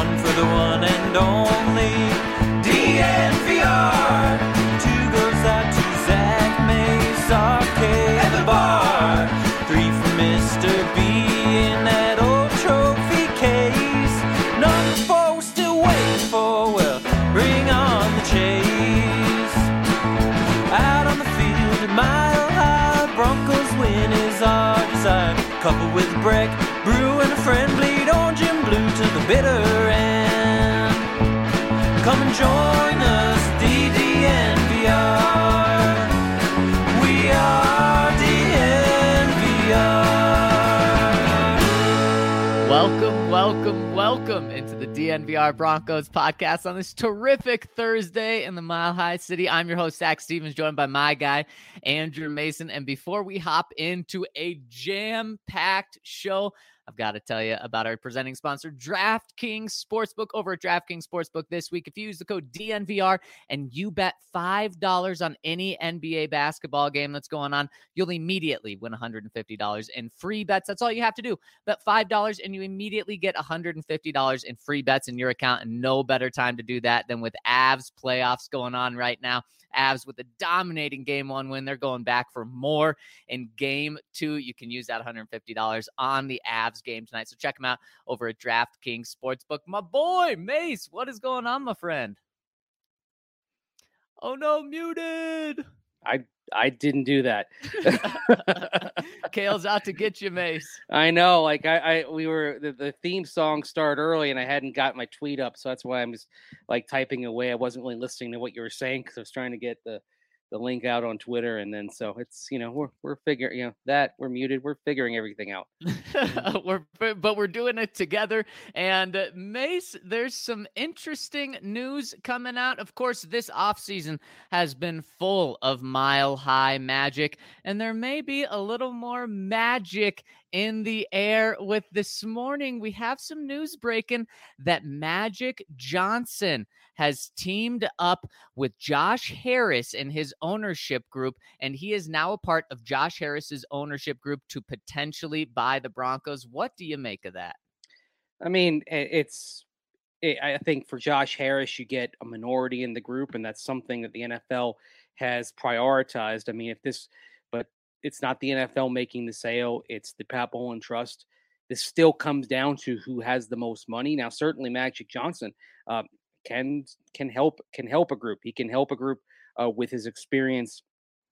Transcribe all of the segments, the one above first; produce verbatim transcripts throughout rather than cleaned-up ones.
one for the one and only D N V R. Two goes out to Zach Mace, R K at the bar. Three for Mister B in that old trophy case. Number four we're still waiting for, well, bring on the chase. Out on the field at Mile High, Broncos win is our desire. Coupled with Breck, Brew and a friend, bleed orange and blue to the bitter end. Come and join us, D D N V R. We are D N V R. Welcome, welcome, welcome into the D N V R Broncos podcast on this terrific Thursday in the Mile High City. I'm your host, Zach Stevens, joined by my guy, Andrew Mason. And before we hop into a jam-packed show, I've got to tell you about our presenting sponsor, DraftKings Sportsbook. Over at DraftKings Sportsbook this week, if you use the code D N V R and you bet five dollars on any N B A basketball game that's going on, you'll immediately win one hundred fifty dollars in free bets. That's all you have to do. Bet five dollars and you immediately get one hundred fifty dollars in free bets in your account, and no better time to do that than with Avs playoffs going on right now. Avs with a dominating game one win. They're going back for more in game two. You can use that one hundred fifty dollars on the Avs game tonight. So check them out over at DraftKings Sportsbook. My boy, Mace, what is going on, my friend? Oh no, muted. I I didn't do that. Kale's out to get you, Mace. I know, like I, I we were the, the theme song started early and I hadn't got my tweet up, so that's why I'm just like typing away. I wasn't really listening to what you were saying because I was trying to get the the link out on Twitter, and then so it's, you know, we're we're figuring, you know, that we're muted, we're figuring everything out. we're but we're doing it together. And uh, Mace, there's some interesting news coming out. Of course, this offseason has been full of Mile High magic, and there may be a little more magic in the air with this morning. We have some news breaking that Magic Johnson has teamed up with Josh Harris and his ownership group, and he is now a part of Josh Harris's ownership group to potentially buy the Broncos. What do you make of that? I mean, it's, it, I think for Josh Harris, you get a minority in the group, and that's something that the N F L has prioritized. I mean, if this, but it's not the N F L making the sale, it's the Pat Bowlen Trust. This still comes down to who has the most money. Now, certainly Magic Johnson uh, can can help can help a group. He can help a group uh, with his experience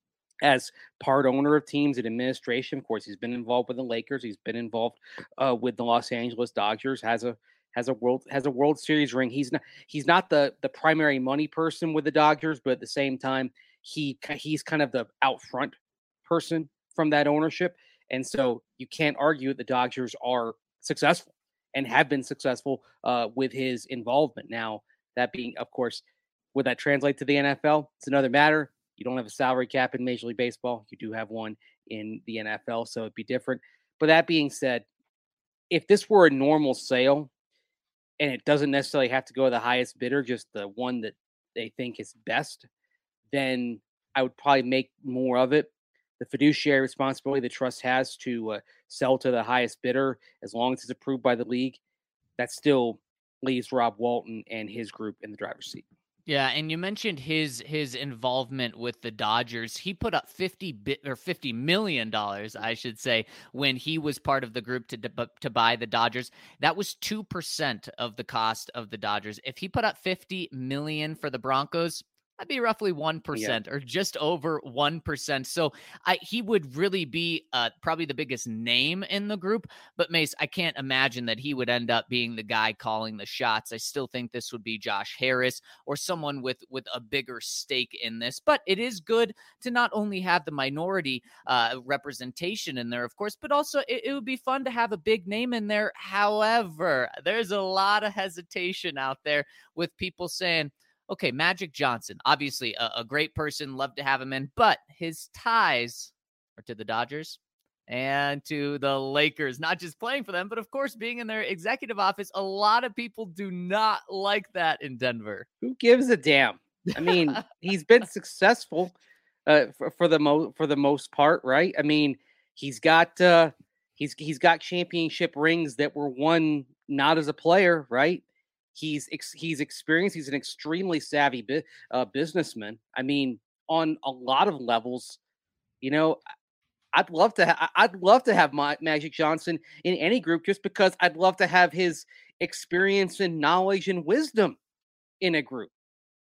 as part owner of teams and administration. Of course, he's been involved with the Lakers. He's been involved uh, with the Los Angeles Dodgers. has a has a world has a World Series ring. He's not he's not the the primary money person with the Dodgers, but at the same time, he he's kind of the out front person from that ownership. And so you can't argue that the Dodgers are successful and have been successful uh, with his involvement. Now, that being, of course, would that translate to the N F L? It's another matter. You don't have a salary cap in Major League Baseball. You do have one in the N F L, so it'd be different. But that being said, if this were a normal sale and it doesn't necessarily have to go to the highest bidder, just the one that they think is best, then I would probably make more of it. The fiduciary responsibility the trust has to uh, sell to the highest bidder, as long as it's approved by the league, that still leaves Rob Walton and his group in the driver's seat. Yeah, and you mentioned his his involvement with the Dodgers. He put up fifty bit or fifty million dollars, I should say, when he was part of the group to to buy the Dodgers. That was two percent of the cost of the Dodgers. If he put up fifty million for the Broncos, that'd be roughly one percent yeah. or just over one percent. So I, he would really be uh, probably the biggest name in the group. But Mace, I can't imagine that he would end up being the guy calling the shots. I still think this would be Josh Harris or someone with, with a bigger stake in this. But it is good to not only have the minority uh, representation in there, of course, but also it, it would be fun to have a big name in there. However, there's a lot of hesitation out there with people saying, okay, Magic Johnson, obviously a, a great person, love to have him in, but his ties are to the Dodgers and to the Lakers, not just playing for them, but of course being in their executive office. A lot of people do not like that in Denver. Who gives a damn? I mean, he's been successful uh, for, for the mo- for the most part, right? I mean, he's got uh, he's he's got championship rings that were won not as a player, right? He's ex- he's experienced. He's an extremely savvy bi- uh, businessman. I mean, on a lot of levels, you know, I'd love to. Ha- I'd love to have my Magic Johnson in any group, just because I'd love to have his experience and knowledge and wisdom in a group.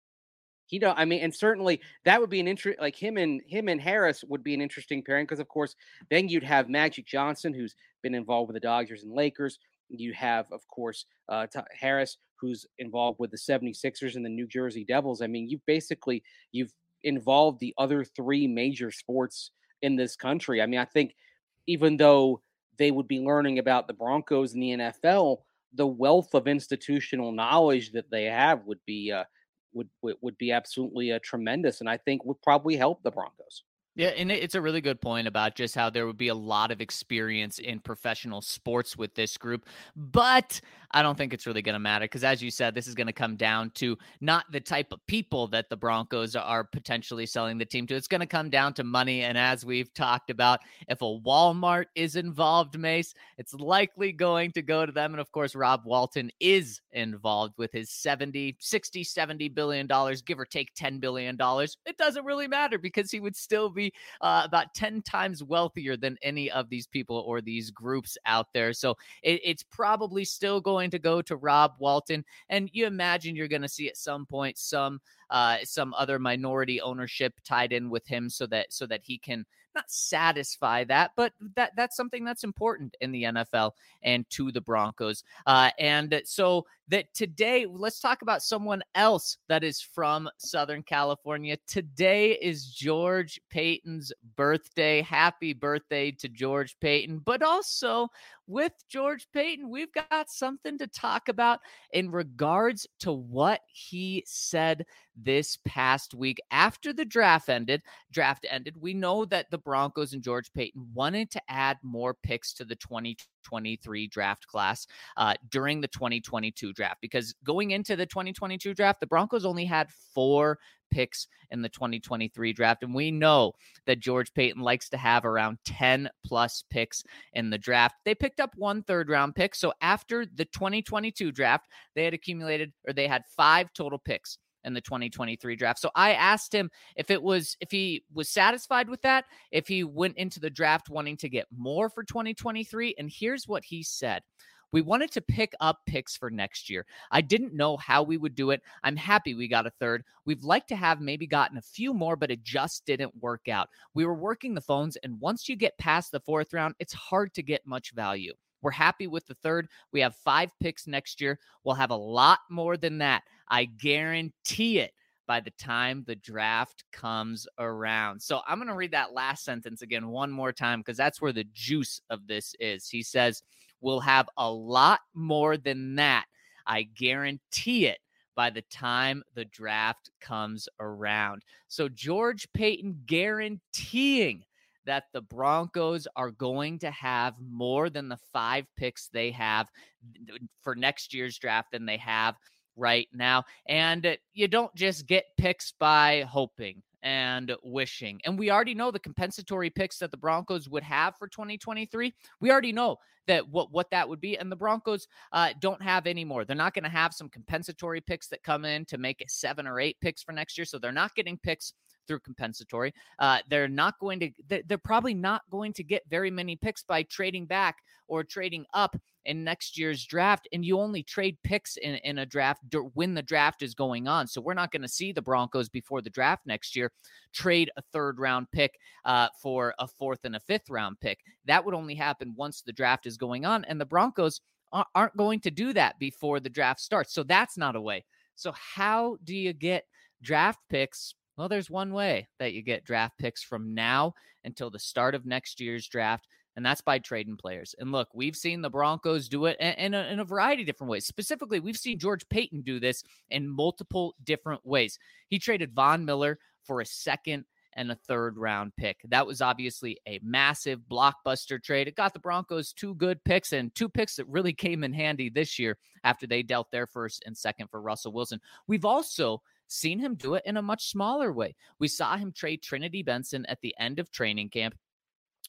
He don't. I mean, and certainly that would be an interest. Like him and him and Harris would be an interesting pairing, because, of course, then you'd have Magic Johnson, who's been involved with the Dodgers and Lakers. You have, of course, uh, T- Harris, who's involved with the 76ers and the New Jersey Devils. I mean, you basically you've involved the other three major sports in this country. I mean, I think even though they would be learning about the Broncos and the N F L, the wealth of institutional knowledge that they have would be uh, would, would would be absolutely uh, tremendous, and I think would probably help the Broncos. Yeah, and it's a really good point about just how there would be a lot of experience in professional sports with this group. But I don't think it's really going to matter because, as you said, this is going to come down to not the type of people that the Broncos are potentially selling the team to. It's going to come down to money. And as we've talked about, if a Walmart is involved, Mace, it's likely going to go to them. And of course, Rob Walton is involved with his seventy, sixty, seventy billion dollars, give or take ten billion dollars. It doesn't really matter because he would still be Uh, about ten times wealthier than any of these people or these groups out there. So it, it's probably still going to go to Rob Walton. And you imagine you're going to see at some point some uh, some other minority ownership tied in with him so that so that he can not satisfy that, but that that's something that's important in the N F L and to the Broncos. Uh, and so that today, let's talk about someone else that is from Southern California. Today is George Paton's birthday. Happy birthday to George Paton. But also with George Paton, we've got something to talk about in regards to what he said this past week after the draft ended. Draft ended. We know that the Broncos and George Paton wanted to add more picks to the twenty twenty-three draft class uh, during the twenty twenty-two draft, because going into the twenty twenty-two draft, the Broncos only had four picks in the twenty twenty-three draft. And we know that George Paton likes to have around ten plus picks in the draft. They picked up one third round pick. So after the twenty twenty-two draft, they had accumulated, or they had five total picks in the twenty twenty-three draft. So I asked him if it was, if he was satisfied with that, if he went into the draft wanting to get more for twenty twenty-three. And here's what he said. We wanted to pick up picks for next year. I didn't know how we would do it. I'm happy we got a third. We'd like to have maybe gotten a few more, but it just didn't work out. We were working the phones, and once you get past the fourth round, it's hard to get much value. We're happy with the third. We have five picks next year. We'll have a lot more than that. I guarantee it by the time the draft comes around. So I'm going to read that last sentence again one more time because that's where the juice of this is. He says, we'll have a lot more than that. I guarantee it by the time the draft comes around. So George Paton guaranteeing that the Broncos are going to have more than the five picks they have for next year's draft than they have right now. And you don't just get picks by hoping and wishing. And we already know the compensatory picks that the Broncos would have for twenty twenty-three. We already know that what, what that would be. And the Broncos uh, don't have any more. They're not going to have some compensatory picks that come in to make it seven or eight picks for next year. So they're not getting picks through compensatory. Uh, they're not going to, they're probably not going to get very many picks by trading back or trading up in next year's draft. And you only trade picks in, in a draft when the draft is going on. So we're not going to see the Broncos before the draft next year trade a third round pick uh, for a fourth and a fifth round pick. That would only happen once the draft is going on. And the Broncos aren't going to do that before the draft starts. So that's not a way. So how do you get draft picks? Well, there's one way that you get draft picks from now until the start of next year's draft, and that's by trading players. And look, we've seen the Broncos do it in a, in a variety of different ways. Specifically, we've seen George Paton do this in multiple different ways. He traded Von Miller for a second and a third round pick. That was obviously a massive blockbuster trade. It got the Broncos two good picks and two picks that really came in handy this year after they dealt their first and second for Russell Wilson. We've also seen him do it in a much smaller way. We saw him trade Trinity Benson at the end of training camp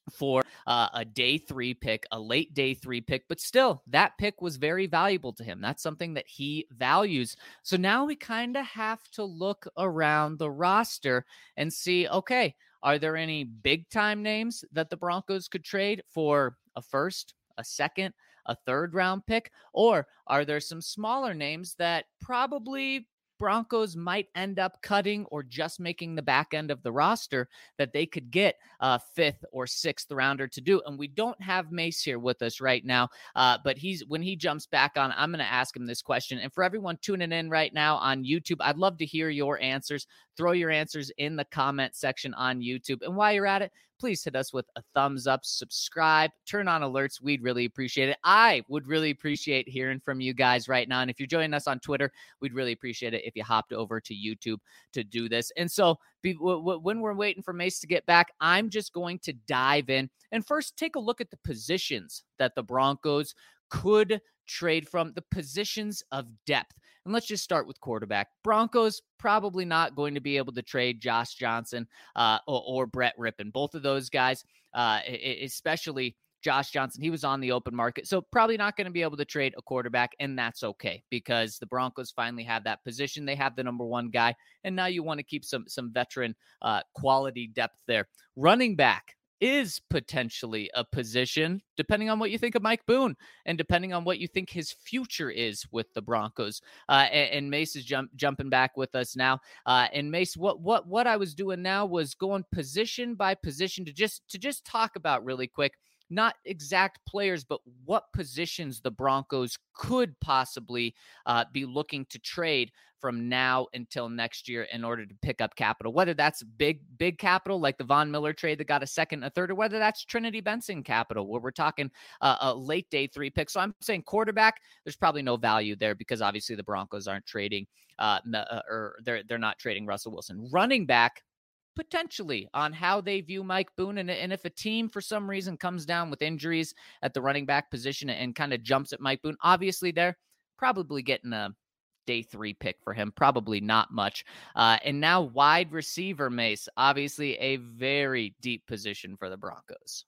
for uh, a day three pick, a late day three pick, but still that pick was very valuable to him. That's something that he values. So now we kind of have to look around the roster and see, okay, are there any big time names that the Broncos could trade for a first, a second, a third round pick? Or are there some smaller names that probably Broncos might end up cutting or just making the back end of the roster that they could get a fifth or sixth rounder to do? And we don't have Mace here with us right now, uh, but he's when he jumps back on, I'm going to ask him this question. And for everyone tuning in right now on YouTube, I'd love to hear your answers. Throw your answers in the comment section on YouTube. And while you're at it, please hit us with a thumbs up, subscribe, turn on alerts. We'd really appreciate it. I would really appreciate hearing from you guys right now. And if you're joining us on Twitter, we'd really appreciate it if you hopped over to YouTube to do this. And so be, w- w- when we're waiting for Mace to get back, I'm just going to dive in and first take a look at the positions that the Broncos could trade from, the positions of depth. And let's just start with quarterback. Broncos probably not going to be able to trade Josh Johnson uh, or, or Brett Rippon. Both of those guys, uh, especially Josh Johnson, he was on the open market. So probably not going to be able to trade a quarterback, and that's okay because the Broncos finally have that position. They have the number one guy, and now you want to keep some, some veteran uh, quality depth there. Running back is potentially a position, depending on what you think of Mike Boone and depending on what you think his future is with the Broncos. Uh, and, and Mace is jump, jumping back with us now. Uh, and Mace, what what what I was doing now was going position by position to just to just talk about really quick, not exact players, but what positions the Broncos could possibly uh, be looking to trade from now until next year in order to pick up capital, whether that's big, big capital like the Von Miller trade that got a second, a third, or whether that's Trinity Benson capital where we're talking uh, a late day three pick. So I'm saying quarterback, there's probably no value there because obviously the Broncos aren't trading uh, or they're, they're not trading Russell Wilson. Running back, potentially on how they view Mike Boone. And, and if a team for some reason comes down with injuries at the running back position and kind of jumps at Mike Boone, obviously they're probably getting a day three pick for him. Probably not much. Uh, and now wide receiver, Mace, obviously a very deep position for the Broncos.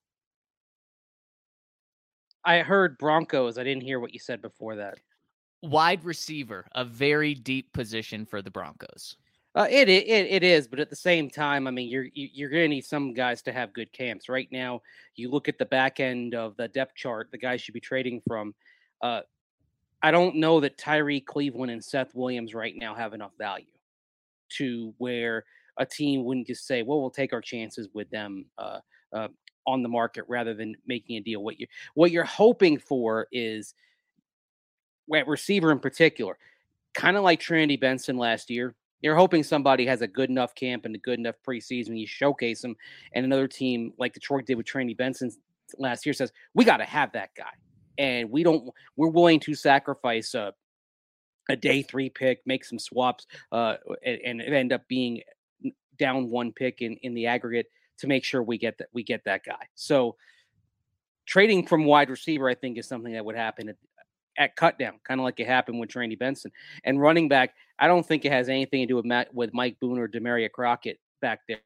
I heard Broncos. I didn't hear what you said before that. Wide receiver, a very deep position for the Broncos. Uh, it, it it is, but at the same time, I mean, you're you're going to need some guys to have good camps. Right now, you look at the back end of the depth chart, the guys should be trading from. Uh, I don't know that Tyree Cleveland and Seth Williams right now have enough value to where a team wouldn't just say, "Well, we'll take our chances with them uh, uh, on the market," rather than making a deal. What you what you're hoping for is, at receiver in particular, kind of like Trinity Benson last year. You're hoping somebody has a good enough camp and a good enough preseason. You showcase them, and another team like Detroit did with Trinity Benson last year says, "We got to have that guy, and we don't. We're willing to sacrifice a, a day three pick, make some swaps, uh, and, and end up being down one pick in, in the aggregate to make sure we get that we get that guy." So, trading from wide receiver, I think, is something that would happen at, at cut down, kind of like it happened with Trinity Benson. And running back, I don't think it has anything to do with Matt, with Mike Boone or Demaria Crockett back there.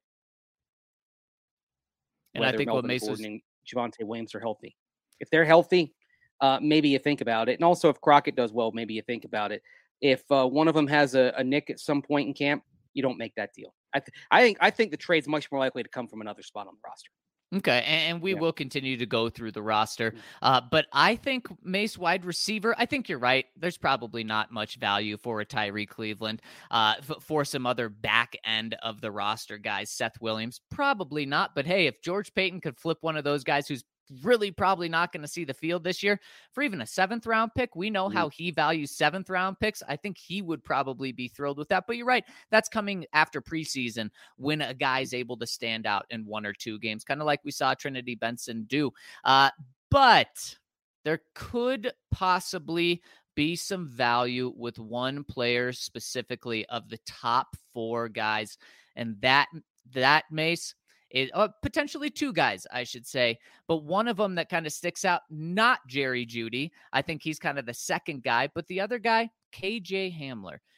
And I think Melvin what Mace Gordon and Javonte Williams are healthy. If they're healthy, uh, maybe you think about it. And also, if Crockett does well, maybe you think about it. If uh, one of them has a, a nick at some point in camp, you don't make that deal. I, th- I think I think the trade's much more likely to come from another spot on the roster. Okay, and we yeah. will continue to go through the roster. Mm. Uh, but I think Mace wide receiver, I think you're right. There's probably not much value for a Tyree Cleveland. Uh, f- for some other back end of the roster guys, Seth Williams, probably not. But hey, if George Paton could flip one of those guys who's really probably not going to see the field this year for even a seventh round pick. We know mm. how he values seventh round picks. I think he would probably be thrilled with that, but you're right. That's coming after preseason when a guy's able to stand out in one or two games, kind of like we saw Trinity Benson do. Uh, but there could possibly be some value with one player specifically of the top four guys. And that, that Mace, It, uh, potentially two guys, I should say, but one of them that kind of sticks out, not Jerry Jeudy. I think he's kind of the second guy, but the other guy, K J Hamler.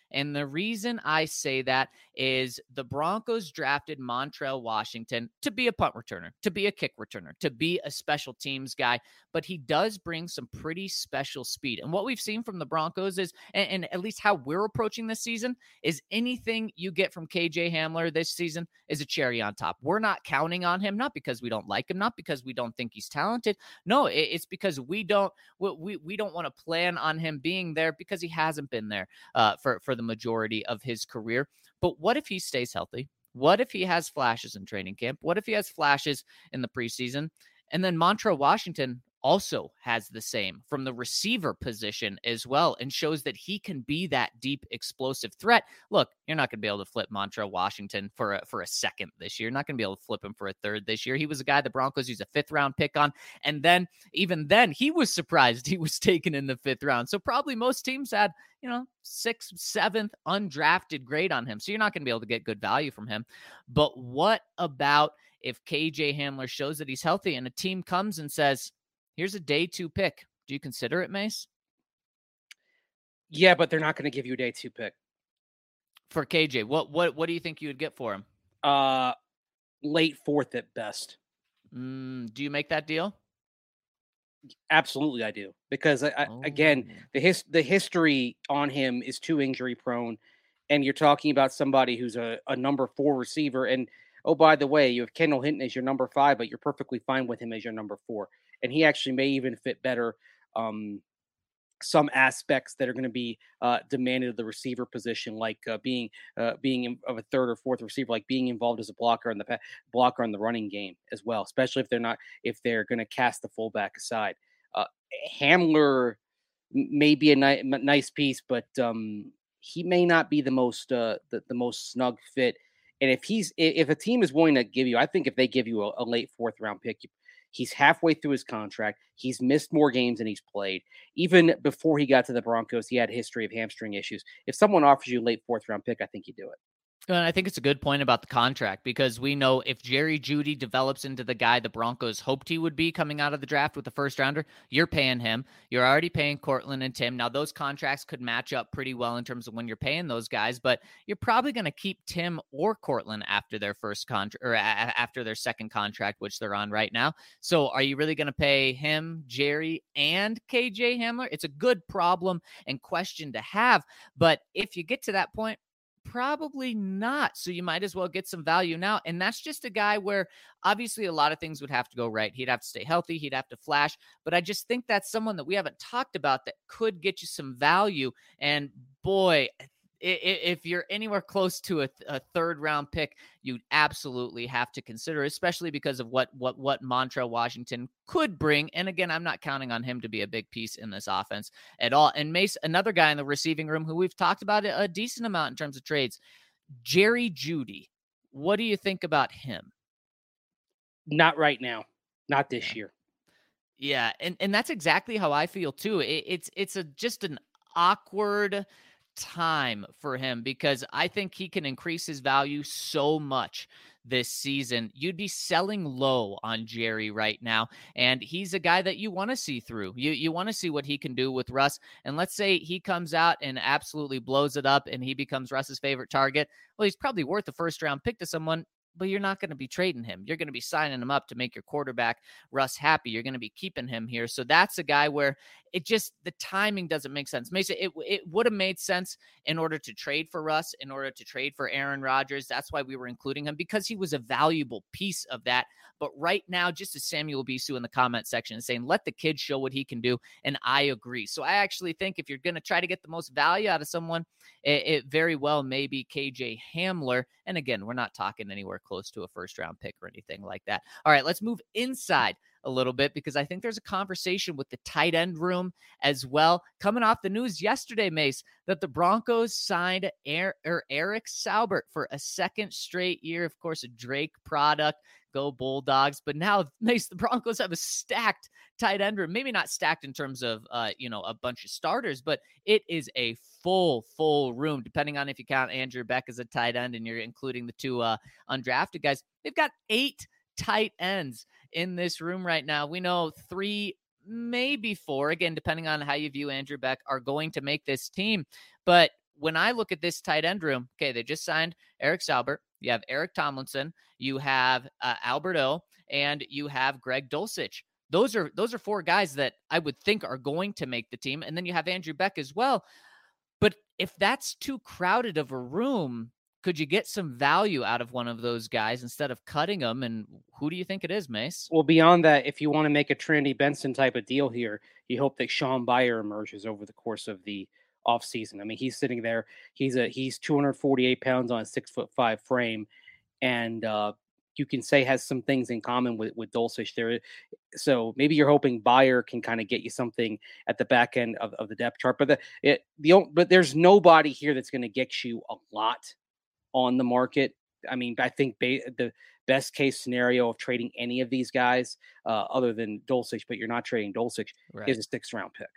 And the reason I say that is the Broncos drafted Montrell Washington to be a punt returner, to be a kick returner, to be a special teams guy, but he does bring some pretty special speed. And what we've seen from the Broncos is, and, and at least how we're approaching this season, is anything you get from K J Hamler this season is a cherry on top. We're not counting on him, not because we don't like him, not because we don't think he's talented. No, it, it's because we don't we, we don't want to plan on him being there because he hasn't been there uh, for, for the majority of his career. But what if he stays healthy? What if he has flashes in training camp? What if he has flashes in the preseason? And then Montrell Washington also has the same from the receiver position as well, and shows that he can be that deep explosive threat. Look, you're not going to be able to flip Montrell Washington for a, for a second this year. You're not going to be able to flip him for a third this year. He was a guy the Broncos used a fifth round pick on. And then even then he was surprised he was taken in the fifth round. So probably most teams had, you know, sixth, seventh undrafted grade on him. So you're not going to be able to get good value from him. But what about if K J Hamler shows that he's healthy and a team comes and says, here's a day two pick? Do you consider it, Mace? Yeah, but they're not going to give you a day two pick. For K J, what what what do you think you would get for him? Uh, late fourth at best. Mm, do you make that deal? Absolutely, I do. Because, I, I, oh. again, the his, the history on him is too injury prone. And you're talking about somebody who's a, a number four receiver. And, oh, by the way, you have Kendall Hinton as your number five, but you're perfectly fine with him as your number four. And he actually may even fit better um, some aspects that are going to be uh, demanded of the receiver position, like uh, being uh, being in, of a third or fourth receiver, like being involved as a blocker in the pa- blocker in the running game as well, especially if they're not if they're going to cast the fullback aside. Uh, Hamler may be a ni- nice piece, but um, he may not be the most uh, the, the most snug fit. And if he's if a team is willing to give you, I think if they give you a, a late fourth round pick, you, he's halfway through his contract. He's missed more games than he's played. Even before he got to the Broncos, he had a history of hamstring issues. If someone offers you a late fourth round pick, I think you do it. And I think it's a good point about the contract, because we know if Jerry Jeudy develops into the guy the Broncos hoped he would be coming out of the draft with the first rounder, you're paying him. You're already paying Cortland and Tim. Now, those contracts could match up pretty well in terms of when you're paying those guys, but you're probably going to keep Tim or Cortland after their first contract or a- after their second contract, which they're on right now. So are you really going to pay him, Jerry, and K J Hamler? It's a good problem and question to have, but if you get to that point, probably not. So you might as well get some value now. And that's just a guy where obviously a lot of things would have to go right. He'd have to stay healthy. He'd have to flash. But I just think that's someone that we haven't talked about that could get you some value. And boy, if you're anywhere close to a, a third round pick, you absolutely have to consider, especially because of what what what Montrell Washington could bring. And again, I'm not counting on him to be a big piece in this offense at all. And Mace, another guy in the receiving room who we've talked about a decent amount in terms of trades, Jerry Jeudy. What do you think about him? Not right now. Not this yeah. year. Yeah, and and that's exactly how I feel too. It, it's it's a just an awkward time for him, because I think he can increase his value so much this season. You'd be selling low on Jerry right now, and he's a guy that you want to see through. You you want to see what he can do with Russ, and let's say he comes out and absolutely blows it up and he becomes Russ's favorite target. Well, he's probably worth a first round pick to someone, but you're not going to be trading him. You're going to be signing him up to make your quarterback, Russ, happy. You're going to be keeping him here. So that's a guy where it just, the timing doesn't make sense. Mason, it, it would have made sense in order to trade for Russ, in order to trade for Aaron Rodgers. That's why we were including him, because he was a valuable piece of that. But right now, just as Samuel Bisu in the comment section is saying, let the kid show what he can do. And I agree. So I actually think if you're going to try to get the most value out of someone, it, it very well may be K J Hamler. And again, we're not talking anywhere close to a first round pick or anything like that. All right, let's move inside a little bit, because I think there's a conversation with the tight end room as well. Coming off the news yesterday, Mace, that the Broncos signed er- er- Eric Saubert for a second straight year. Of course, a Drake product. Go Bulldogs. But now, Mace, the Broncos have a stacked tight end room. Maybe not stacked in terms of, uh, you know, a bunch of starters, but it is a full, full room, depending on if you count Andrew Beck as a tight end and you're including the two uh, undrafted guys. They've got eight tight ends in this room right now. We know three, maybe four, again, depending on how you view Andrew Beck, are going to make this team. But when I look at this tight end room, okay, they just signed Eric Saubert. You have Eric Tomlinson. You have uh, Albert O, and you have Greg Dulcich. Those are those are four guys that I would think are going to make the team. And then you have Andrew Beck as well. But if that's too crowded of a room, could you get some value out of one of those guys instead of cutting them? And who do you think it is, Mace? Well, beyond that, if you want to make a Trinity Benson type of deal here, you hope that Sean Beyer emerges over the course of the offseason. I mean, he's sitting there. He's a he's two hundred forty-eight pounds on a six foot five frame, and uh, you can say has some things in common with with Dulcich there. So maybe you're hoping Beyer can kind of get you something at the back end of, of the depth chart. But the it the but there's nobody here that's going to get you a lot on the market. I mean, I think ba- the best case scenario of trading any of these guys, uh, other than Dulcich, but you're not trading Dulcich, right, is a sixth round pick.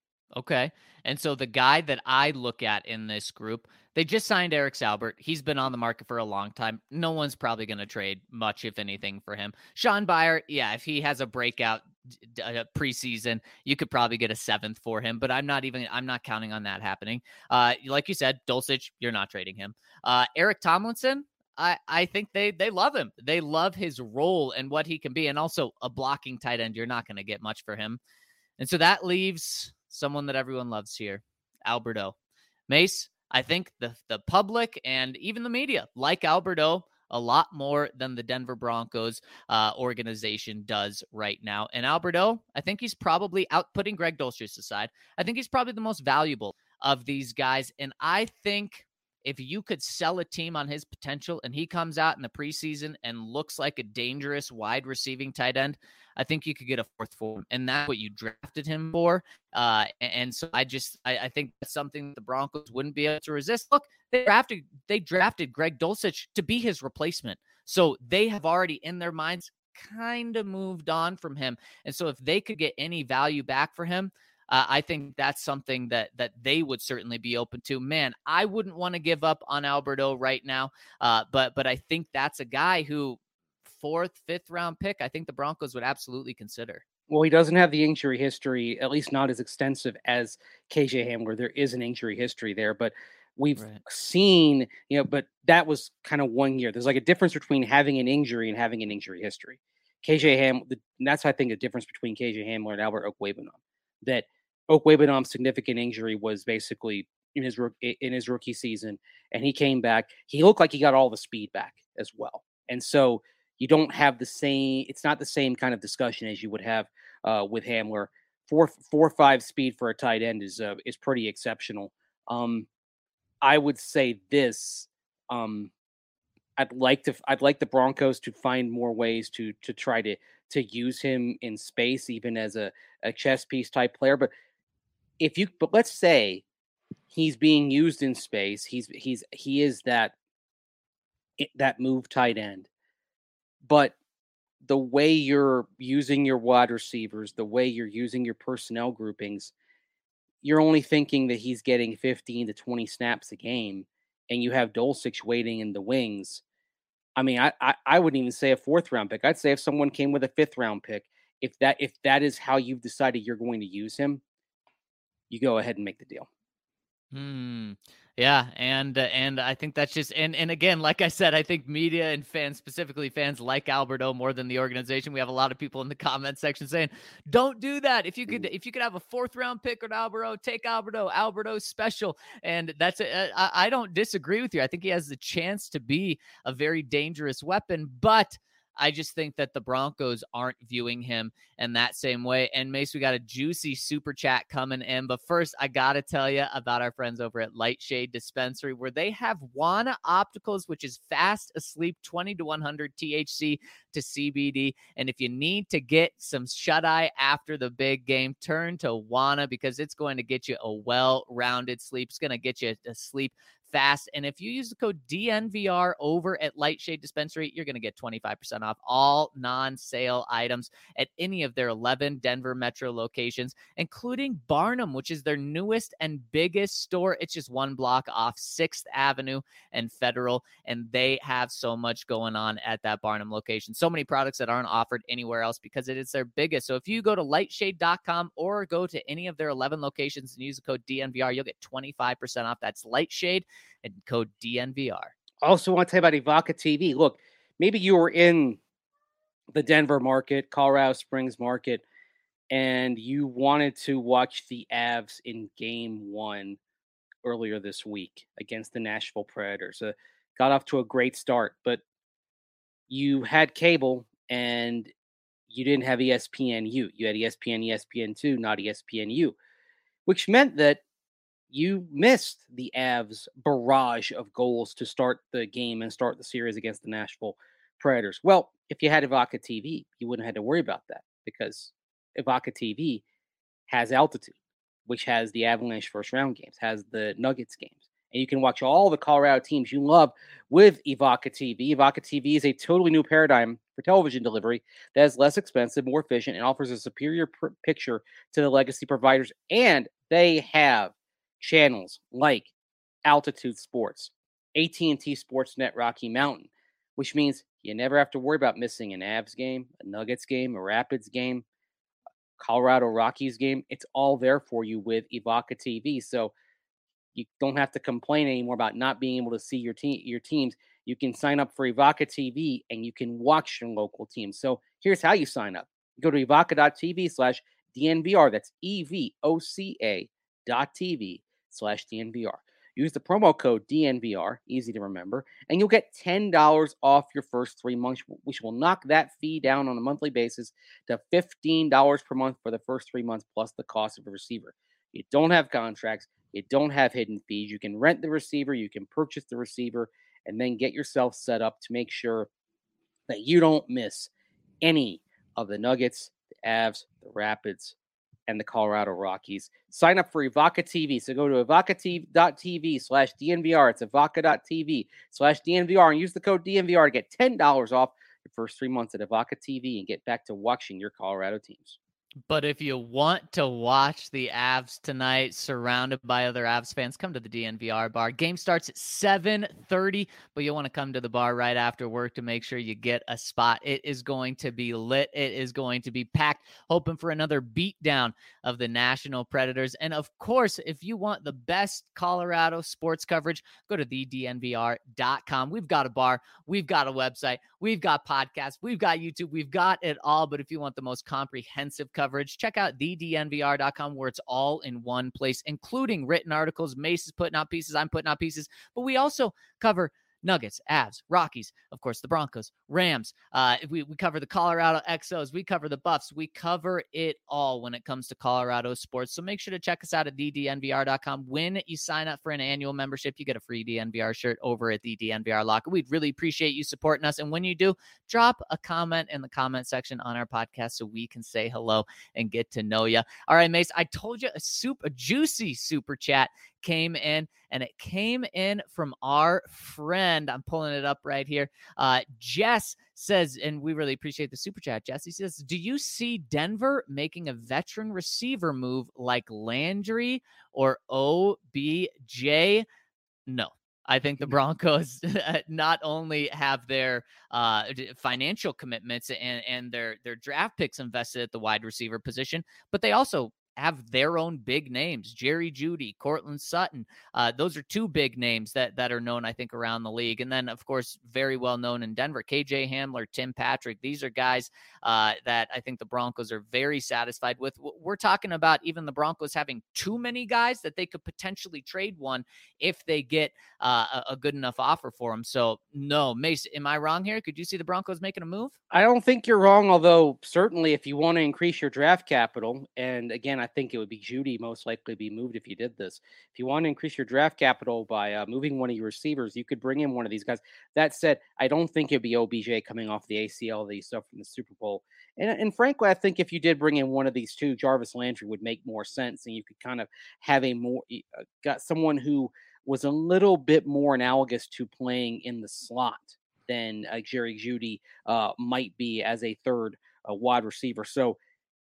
Okay. And so the guy that I look at in this group, they just signed Eric Saubert. He's been on the market for a long time. No one's probably going to trade much, if anything, for him. Sean Beyer, yeah, if he has a breakout uh, preseason, you could probably get a seventh for him, but I'm not even, I'm not counting on that happening. Uh, like you said, Dulcich, you're not trading him. Uh, Eric Tomlinson, I, I think they they love him. They love his role and what he can be. And also a blocking tight end, you're not going to get much for him. And so that leaves someone that everyone loves here, Albert O. Mace, I think the, the public and even the media like Albert O a lot more than the Denver Broncos uh, organization does right now. And Albert O, I think he's probably out, putting Greg Dulcich aside, I think he's probably the most valuable of these guys. And I think if you could sell a team on his potential and he comes out in the preseason and looks like a dangerous wide receiving tight end, I think you could get a fourth for him. And that's what you drafted him for. Uh, and so I just, I, I think that's something the Broncos wouldn't be able to resist. Look, they drafted, they drafted Greg Dulcich to be his replacement. So they have already in their minds kind of moved on from him. And so if they could get any value back for him, Uh, I think that's something that that they would certainly be open to. Man, I wouldn't want to give up on Albert O right now, uh, but but I think that's a guy who fourth, fifth round pick, I think the Broncos would absolutely consider. Well, he doesn't have the injury history, at least not as extensive as K J Hamler. There is an injury history there, but we've right. seen, you know, but that was kind of one year. There's like a difference between having an injury and having an injury history. K J Ham, and that's, I think, a difference between K J Hamler and Albert Okwuegbunam. That Okwuegbunam's significant injury was basically in his in his rookie season, and he came back. He looked like he got all the speed back as well, and so you don't have the same. It's not the same kind of discussion as you would have uh, with Hamler. Four four five speed for a tight end is uh, is pretty exceptional. Um, I would say this. Um, I'd like to. I'd like the Broncos to find more ways to to try to to use him in space, even as a, a chess piece type player. But if you, but let's say he's being used in space. He's he's he is that that move tight end. But the way you're using your wide receivers, the way you're using your personnel groupings, you're only thinking that he's getting fifteen to twenty snaps a game, and you have Dulcich waiting in the wings. I mean, I, I I wouldn't even say a fourth round pick. I'd say if someone came with a fifth round pick, if that if that is how you've decided you're going to use him, you go ahead and make the deal. Hmm. Yeah, and uh, and I think that's just and and again, like I said, I think media and fans, specifically fans, like Albert O more than the organization. We have a lot of people in the comment section saying, "Don't do that. If you could, if you could have a fourth round pick on Albert O, take Albert O. Albert O's special." And that's a, I, I don't disagree with you. I think he has the chance to be a very dangerous weapon, but I just think that the Broncos aren't viewing him in that same way. And Mace, we got a juicy super chat coming in. But first, I got to tell you about our friends over at Lightshade Dispensary, where they have Wana Opticals, which is fast asleep, twenty to one hundred T H C to C B D. And if you need to get some shut eye after the big game, turn to Wana, because it's going to get you a well-rounded sleep. It's going to get you to sleep fast. And if you use the code D N V R over at Lightshade Dispensary, you're going to get twenty-five percent off all non-sale items at any of their eleven Denver metro locations, including Barnum, which is their newest and biggest store. It's just one block off sixth Avenue and Federal, and they have so much going on at that Barnum location. So many products that aren't offered anywhere else because it is their biggest. So if you go to lightshade dot com or go to any of their eleven locations and use the code D N V R, you'll get twenty-five percent off. That's Lightshade and code D N V R. I also want to tell you about Evoca T V. Look, maybe you were in the Denver market, Colorado Springs market, and you wanted to watch the Avs in game one earlier this week against the Nashville Predators. Uh, got off to a great start, but you had cable and you didn't have E S P N U. You had E S P N, E S P N two, not E S P N U, which meant that you missed the Avs barrage of goals to start the game and start the series against the Nashville Predators. Well, if you had Evoca T V, you wouldn't have to worry about that because Evoca T V has altitude, which has the Avalanche first round games, has the Nuggets games. And you can watch all the Colorado teams you love with Evoca T V. Evoca T V is a totally new paradigm for television delivery that is less expensive, more efficient, and offers a superior pr- picture to the legacy providers. And they have channels like Altitude Sports, A T and T Sportsnet Rocky Mountain, which means you never have to worry about missing an Avs game, a Nuggets game, a Rapids game, Colorado Rockies game. It's all there for you with Evoca T V. So you don't have to complain anymore about not being able to see your team, your teams. You can sign up for Evoca T V and you can watch your local teams. So here's how you sign up. Go to evoca dot t v slash D N V R. That's E V O C A dot T V slash D N V R. Use the promo code D N V R, easy to remember, and you'll get ten dollars off your first three months, which will knock that fee down on a monthly basis to fifteen dollars per month for the first three months plus the cost of a receiver. You don't have contracts. You don't have hidden fees. You can rent the receiver. You can purchase the receiver and then get yourself set up to make sure that you don't miss any of the Nuggets, the Avs, the Rapids, and the Colorado Rockies. Sign up for Evoca T V. So go to evoca dot t v slash D N V R. It's evoca dot t v slash D N V R and use the code D N V R to get ten dollars off your first three months at Evoca T V and get back to watching your Colorado teams. But if you want to watch the Avs tonight, surrounded by other Avs fans, come to the D N V R bar. Game starts at seven thirty, but you'll want to come to the bar right after work to make sure you get a spot. It is going to be lit. It is going to be packed, hoping for another beatdown of the Nashville Predators. And of course, if you want the best Colorado sports coverage, go to the D N V R dot com. We've got a bar. We've got a website. We've got podcasts. We've got YouTube. We've got it all. But if you want the most comprehensive coverage, check out the D N V R dot com, where it's all in one place, including written articles. Mace is putting out pieces. I'm putting out pieces. But we also cover Nuggets, Avs, Rockies, of course, the Broncos, Rams. Uh, we, we cover the Colorado X Os. We cover the Buffs. We cover it all when it comes to Colorado sports. So make sure to check us out at the D N V R dot com. When you sign up for an annual membership, you get a free D N V R shirt over at the D N V R Locker. We'd really appreciate you supporting us. And when you do, drop a comment in the comment section on our podcast so we can say hello and get to know you. All right, Mace, I told you a soup, a juicy super chat came in, and it came in from our friend. I'm pulling it up right here. Uh, Jess says, and we really appreciate the super chat, Jess. He says, do you see Denver making a veteran receiver move like Landry or O B J? No. I think the Broncos not only have their uh, financial commitments and, and their, their draft picks invested at the wide receiver position, but they also have their own big names. Jerry Jeudy, Cortland Sutton. Uh, those are two big names that, that are known, I think, around the league. And then, of course, very well known in Denver, K J Hamler, Tim Patrick. These are guys uh, that I think the Broncos are very satisfied with. We're talking about even the Broncos having too many guys that they could potentially trade one if they get uh, a, a good enough offer for them. So, no, Mace, am I wrong here? Could you see the Broncos making a move? I don't think you're wrong, although certainly if you want to increase your draft capital, and again, I think it would be Jeudy most likely be moved if you did this. If you want to increase your draft capital by uh, moving one of your receivers, you could bring in one of these guys. That said, I don't think it'd be O B J coming off the A C L that you saw from the Super Bowl. And, and frankly, I think if you did bring in one of these two, Jarvis Landry would make more sense, and you could kind of have a more uh, got someone who was a little bit more analogous to playing in the slot than uh, Jerry Jeudy uh, might be as a third uh, wide receiver. So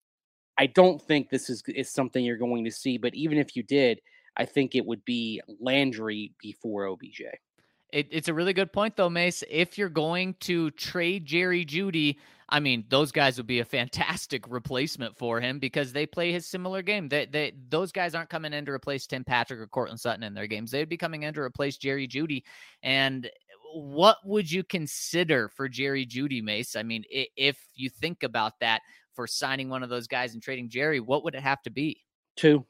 I don't think this is is something you're going to see. But even if you did, I think it would be Landry before O B J. It, it's a really good point, though, Mace. If you're going to trade Jerry Jeudy, I mean, those guys would be a fantastic replacement for him because they play his similar game. They, they, those guys aren't coming in to replace Tim Patrick or Cortland Sutton in their games. They'd be coming in to replace Jerry Jeudy. And what would you consider for Jerry Jeudy, Mace? I mean, if you think about that for signing one of those guys and trading Jerry, what would it have to be? Two.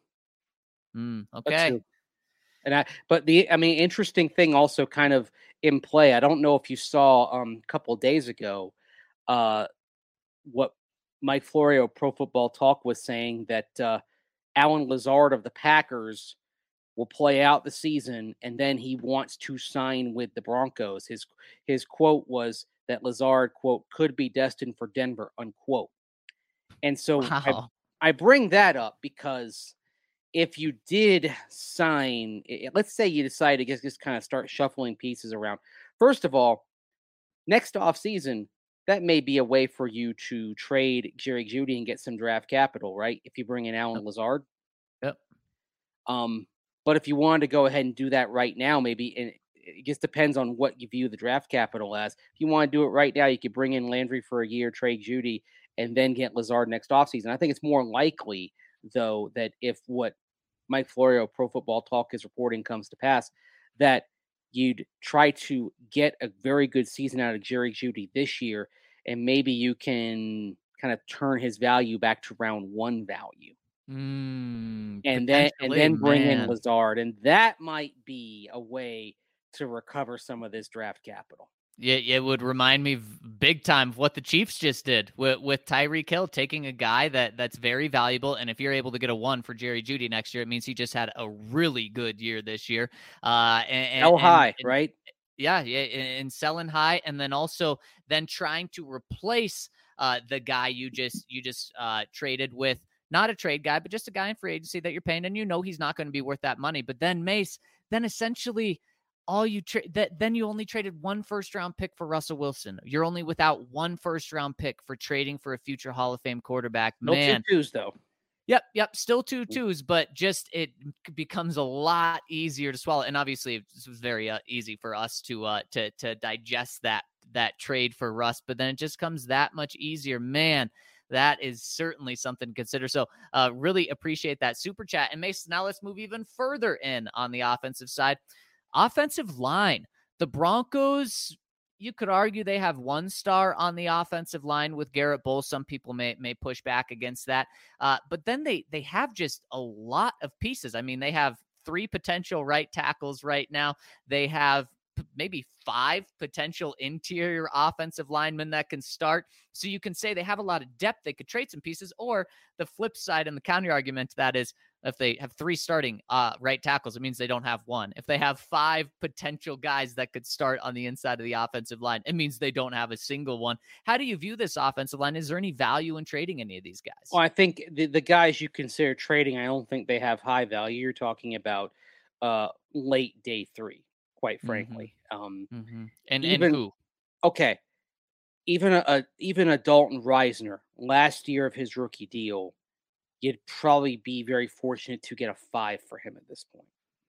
Mm, okay. Two. And I, but the, I mean, interesting thing also kind of in play. I don't know if you saw um, a couple of days ago, uh, what Mike Florio, Pro Football Talk, was saying that uh, Allen Lazard of the Packers will play out the season, and then he wants to sign with the Broncos. His his quote was that Lazard, quote, could be destined for Denver, unquote. And so wow. I, I bring that up because if you did sign, let's say you decide to just, just kind of start shuffling pieces around. First of all, next offseason, that may be a way for you to trade Jerry Jeudy and get some draft capital, right? If you bring in Allen Yep. Lazard. Yep. Um, but if you wanted to go ahead and do that right now, maybe, and it just depends on what you view the draft capital as. If you want to do it right now, you could bring in Landry for a year, trade Jeudy, and then get Lazard next offseason. I think it's more likely, though, that if what Mike Florio, Pro Football Talk, is reporting comes to pass, that you'd try to get a very good season out of Jerry Jeudy this year, and maybe you can kind of turn his value back to round one value. Mm, and then and then bring man. in Lazard, and that might be a way to recover some of this draft capital. Yeah, it would remind me big time of what the Chiefs just did with, with Tyreek Hill, taking a guy that that's very valuable. And if you're able to get a one for Jerry Jeudy next year, it means he just had a really good year this year. Uh, and, Sell high, and, right? Yeah, yeah, and selling high, and then also then trying to replace uh, the guy you just you just uh, traded with, not a trade guy, but just a guy in free agency that you're paying, and you know he's not going to be worth that money. But then Mace, then essentially all you tra- that then you only traded one first round pick for Russell Wilson. You're only without one first round pick for trading for a future Hall of Fame quarterback. No Man, two twos though. Yep, yep, still two twos, but just it becomes a lot easier to swallow. And obviously, this was very uh, easy for us to uh, to to digest that that trade for Russ. But then it just comes that much easier, man. That is certainly something to consider. So, uh, really appreciate that super chat. And Mason, now let's move even further in on the offensive side. Offensive line, the Broncos. You could argue they have one star on the offensive line with Garrett Bowles. Some people may may push back against that. Uh, but then they they have just a lot of pieces. I mean, they have three potential right tackles right now. They have p- maybe five potential interior offensive linemen that can start. So you can say they have a lot of depth. They could trade some pieces. Or the flip side and the counter argument to that is, if they have three starting uh, right tackles, it means they don't have one. If they have five potential guys that could start on the inside of the offensive line, it means they don't have a single one. How do you view this offensive line? Is there any value in trading any of these guys? Well, I think the, the guys you consider trading, I don't think they have high value. You're talking about uh, late day three, quite frankly. Mm-hmm. Um, mm-hmm. And, even, and who? Okay. Even a, a even a Dalton Reisner, last year of his rookie deal, you'd probably be very fortunate to get a five for him at this point.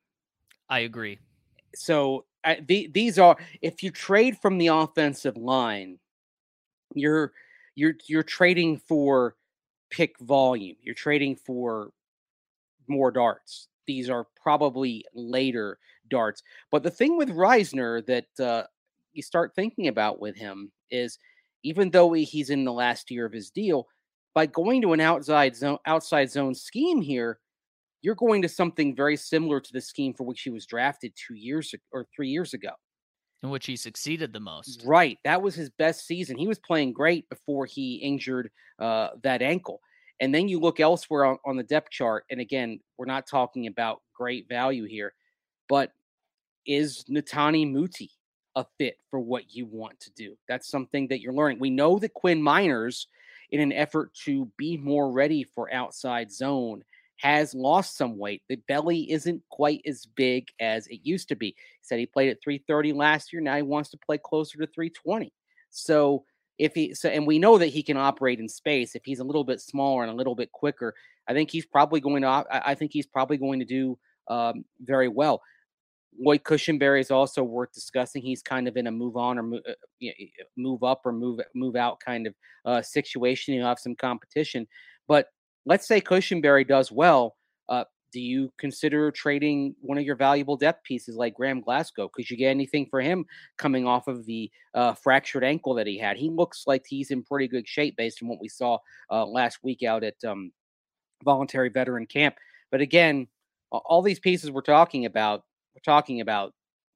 I agree. So I, the, these are, if you trade from the offensive line, you're you're you're trading for pick volume. You're trading for more darts. These are probably later darts. But the thing with Reisner that uh, you start thinking about with him is, even though he's in the last year of his deal, by going to an outside zone, outside zone scheme here, you're going to something very similar to the scheme for which he was drafted two years or three years ago. In which he succeeded the most. Right. That was his best season. He was playing great before he injured uh, that ankle. And then you look elsewhere on, on the depth chart. And again, we're not talking about great value here, but is Netani Muti a fit for what you want to do? That's something that you're learning. We know that Quinn Miners, in an effort to be more ready for outside zone, has lost some weight. The belly isn't quite as big as it used to be. He said he played at three thirty last year. Now he wants to play closer to three twenty. So if he so, and we know that he can operate in space. If he's a little bit smaller and a little bit quicker, I think he's probably going to. I think he's probably going to do um, very well. Lloyd Cushenberry is also worth discussing. He's kind of in a move on or move, uh, move up or move move out kind of uh, situation. He'll have some competition, but let's say Cushenberry does well. Uh, do you consider trading one of your valuable depth pieces like Graham Glasgow? Could you get anything for him coming off of the uh, fractured ankle that he had? He looks like he's in pretty good shape based on what we saw uh, last week out at um, voluntary veteran camp. But again, all these pieces we're talking about, we're talking about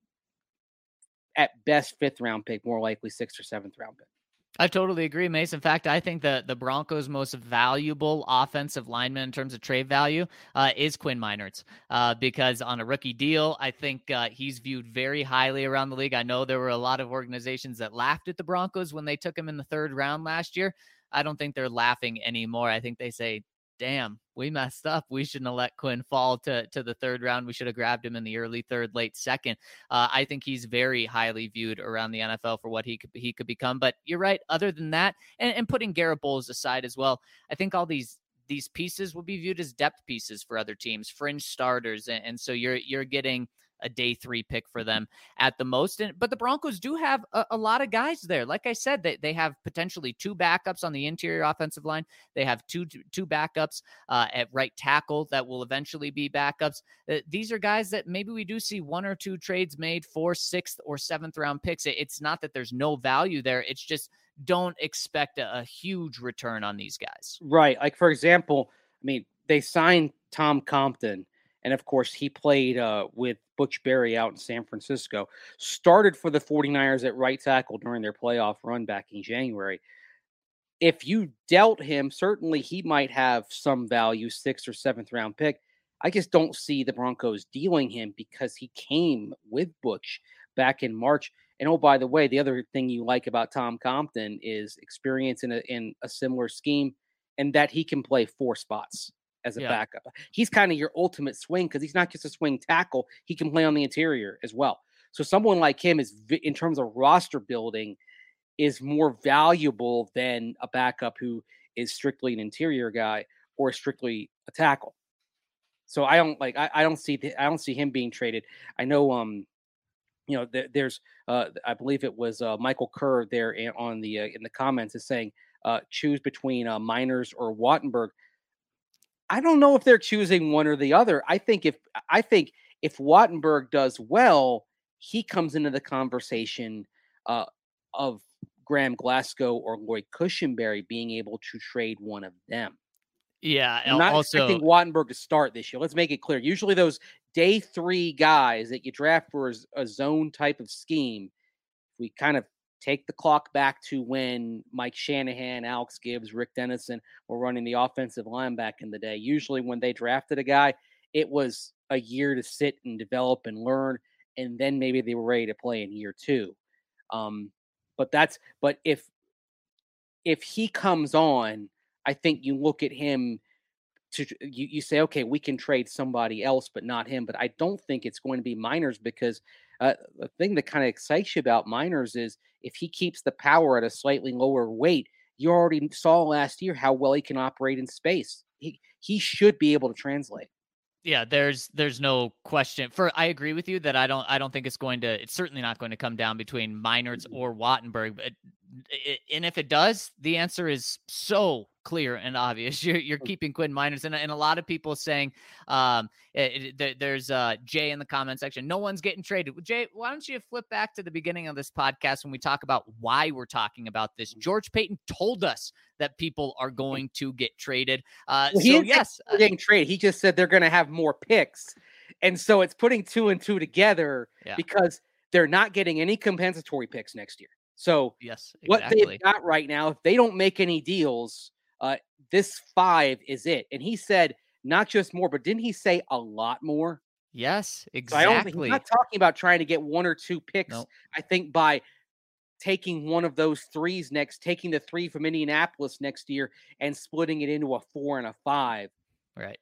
at best fifth round pick, more likely sixth or seventh round pick. I totally agree, Mace. In fact, I think the, the Broncos' most valuable offensive lineman in terms of trade value uh, is Quinn Meinerz, uh, because on a rookie deal, I think uh, he's viewed very highly around the league. I know there were a lot of organizations that laughed at the Broncos when they took him in the third round last year. I don't think they're laughing anymore. I think they say, damn, we messed up. We shouldn't have let Quinn fall to, to the third round. We should have grabbed him in the early third, late second. Uh, I think he's very highly viewed around the N F L for what he could he could become. But you're right. Other than that, and, and putting Garrett Bowles aside as well, I think all these these pieces will be viewed as depth pieces for other teams, fringe starters, and, and so you're you're getting a day three pick for them at the most. And, but the Broncos do have a, a lot of guys there. Like I said, they, they have potentially two backups on the interior offensive line. They have two, two backups uh, at right tackle that will eventually be backups. Uh, these are guys that maybe we do see one or two trades made for sixth or seventh round picks. It, it's not that there's no value there. It's just don't expect a, a huge return on these guys. Right. Like, for example, I mean, they signed Tom Compton, and of course, he played uh, with Butch Berry out in San Francisco, started for the 49ers at right tackle during their playoff run back in January. If you dealt him, certainly he might have some value, sixth or seventh round pick. I just don't see the Broncos dealing him because he came with Butch back in March. And oh, by the way, the other thing you like about Tom Compton is experience in a, in a similar scheme and that he can play four spots as a yeah. backup. He's kind of your ultimate swing because he's not just a swing tackle. He can play on the interior as well. So someone like him is, in terms of roster building, is more valuable than a backup who is strictly an interior guy or strictly a tackle. So I don't like, I, I don't see, the, I don't see him being traded. I know, um, you know, th- there's, uh, I believe it was uh, Michael Kerr there in, on the, uh, in the comments is saying, uh, choose between uh, Meinerz or Wattenberg. I don't know if they're choosing one or the other. I think if I think if Wattenberg does well, he comes into the conversation uh, of Graham Glasgow or Lloyd Cushenberry being able to trade one of them. Yeah, I'm not also, expecting Wattenberg to start this year. Let's make it clear. Usually those day three guys that you draft for a zone type of scheme, we kind of take the clock back to when Mike Shanahan, Alex Gibbs, Rick Dennison were running the offensive line back in the day. Usually when they drafted a guy, it was a year to sit and develop and learn, and then maybe they were ready to play in year two. Um, but that's but if if he comes on, I think you look at him to you, you say, okay, we can trade somebody else, but not him. But I don't think it's going to be Meinerz because uh, the thing that kind of excites you about Meinerz is if he keeps the power at a slightly lower weight, you already saw last year how well he can operate in space. He he should be able to translate. Yeah, there's there's no question. For I agree with you that I don't I don't think it's going to it's certainly not going to come down between Meinerz or Wattenberg. But it, and if it does, the answer is so clear and obvious. You're you're keeping Quinn Meinerz, and, and a lot of people saying um it, it, there's uh Jay in the comment section. No one's getting traded. Jay, why don't you flip back to the beginning of this podcast when we talk about why we're talking about this? George Paton told us that people are going to get traded. Uh, well, so yes, they're getting traded. He just said they're going to have more picks, and so it's putting two and two together yeah. because they're not getting any compensatory picks next year. So yes, exactly. What they've got right now, if they don't make any deals, uh, this five is it. And he said not just more, but didn't he say a lot more? Yes, exactly. So I don't think, he's not talking about trying to get one or two picks. Nope. I think by taking one of those threes next, taking the three from Indianapolis next year and splitting it into a four and a five. Right.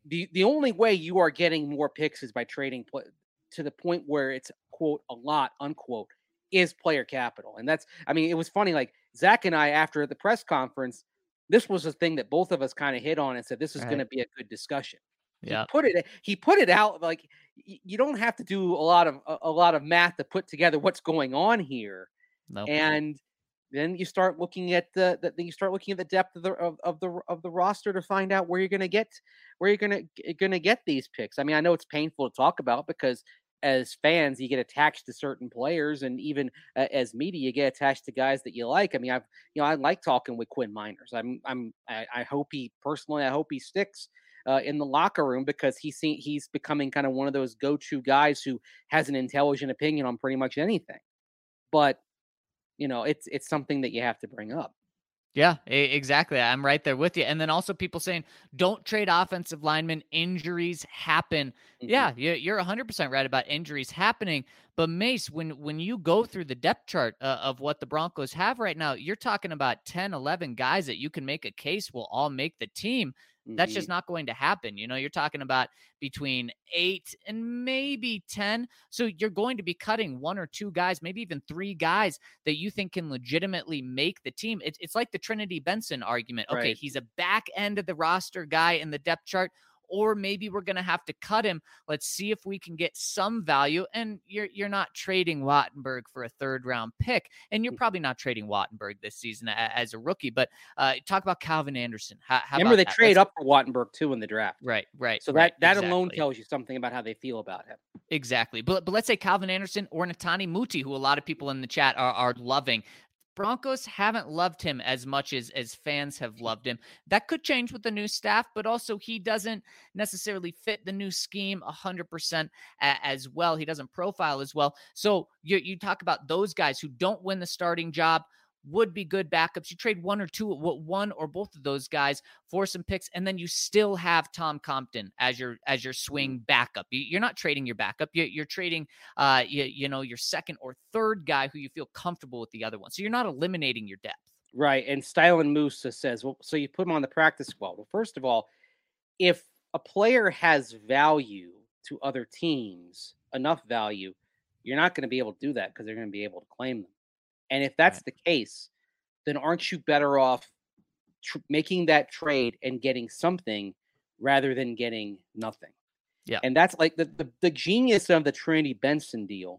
the the only way you are getting more picks is by trading pl- to the point where it's quote a lot unquote is player capital. And that's, I mean, it was funny. Like Zach and I, after the press conference, this was a thing that both of us kind of hit on and said, this is Right. going to be a good discussion. Yeah. He put it, he put it out like y- you don't have to do a lot of, a, a lot of math to put together what's going on here. No. And then you start looking at the, the then you start looking at the depth of the of, of the of the roster to find out where you're going to get where you're going to going to get these picks. I mean, I know it's painful to talk about because as fans you get attached to certain players, and even uh, as media you get attached to guys that you like. I mean, I've you know I like talking with Quinn Miners. I'm I'm I, I hope he personally I hope he sticks uh, in the locker room because he's seen, he's becoming kind of one of those go-to guys who has an intelligent opinion on pretty much anything. But you know, it's it's something that you have to bring up. Yeah, exactly. I'm right there with you. And then also people saying, don't trade offensive linemen. Injuries happen. Mm-hmm. Yeah, you're one hundred percent right about injuries happening. But Mace, when when you go through the depth chart uh, of what the Broncos have right now, you're talking about ten, eleven guys that you can make a case will all make the team. That's just not going to happen. You know, you're talking about between eight and maybe ten. So you're going to be cutting one or two guys, maybe even three guys that you think can legitimately make the team. It's, it's like the Trinity Benson argument. Okay, right. He's a back end of the roster guy in the depth chart, or maybe we're going to have to cut him. Let's see if we can get some value. And you're you're not trading Wattenberg for a third round pick, and you're probably not trading Wattenberg this season as a rookie. But uh, talk about Calvin Anderson. How, how Remember, they that? trade Let's... up for Wattenberg too in the draft. Right, right. So right, that that exactly. alone tells you something about how they feel about him. Exactly. But but let's say Calvin Anderson or Netani Muti, who a lot of people in the chat are are loving. Broncos haven't loved him as much as, as fans have loved him. That could change with the new staff, but also he doesn't necessarily fit the new scheme one hundred percent as well. He doesn't profile as well. So you, you talk about those guys who don't win the starting job, would be good backups. You trade one or two, one or both of those guys for some picks, and then you still have Tom Compton as your as your swing backup. You're not trading your backup. You're trading, uh, you, you know, your second or third guy who you feel comfortable with the other one. So you're not eliminating your depth. Right. And Stylen Musa says, well, so you put him on the practice squad. Well, first of all, if a player has value to other teams, enough value, you're not going to be able to do that because they're going to be able to claim them. And if that's right. the case, then aren't you better off tr- making that trade and getting something rather than getting nothing? Yeah. And that's like the, the, the genius of the Trinity Benson deal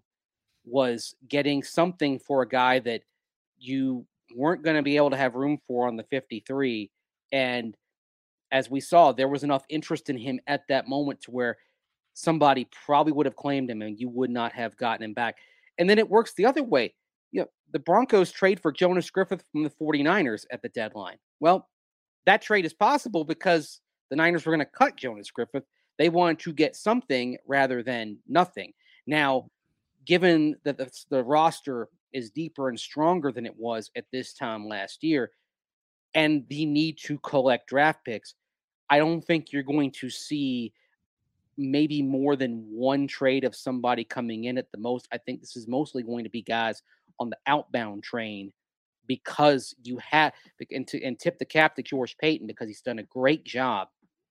was getting something for a guy that you weren't going to be able to have room for on the fifty-three. And as we saw, there was enough interest in him at that moment to where somebody probably would have claimed him and you would not have gotten him back. And then it works the other way. You know, the Broncos trade for Jonas Griffith from the 49ers at the deadline. Well, that trade is possible because the Niners were going to cut Jonas Griffith. They wanted to get something rather than nothing. Now, given that the, the roster is deeper and stronger than it was at this time last year, and the need to collect draft picks, I don't think you're going to see maybe more than one trade of somebody coming in at the most. I think this is mostly going to be guys on the outbound train because you have and, to, and tip the cap to George Paton because he's done a great job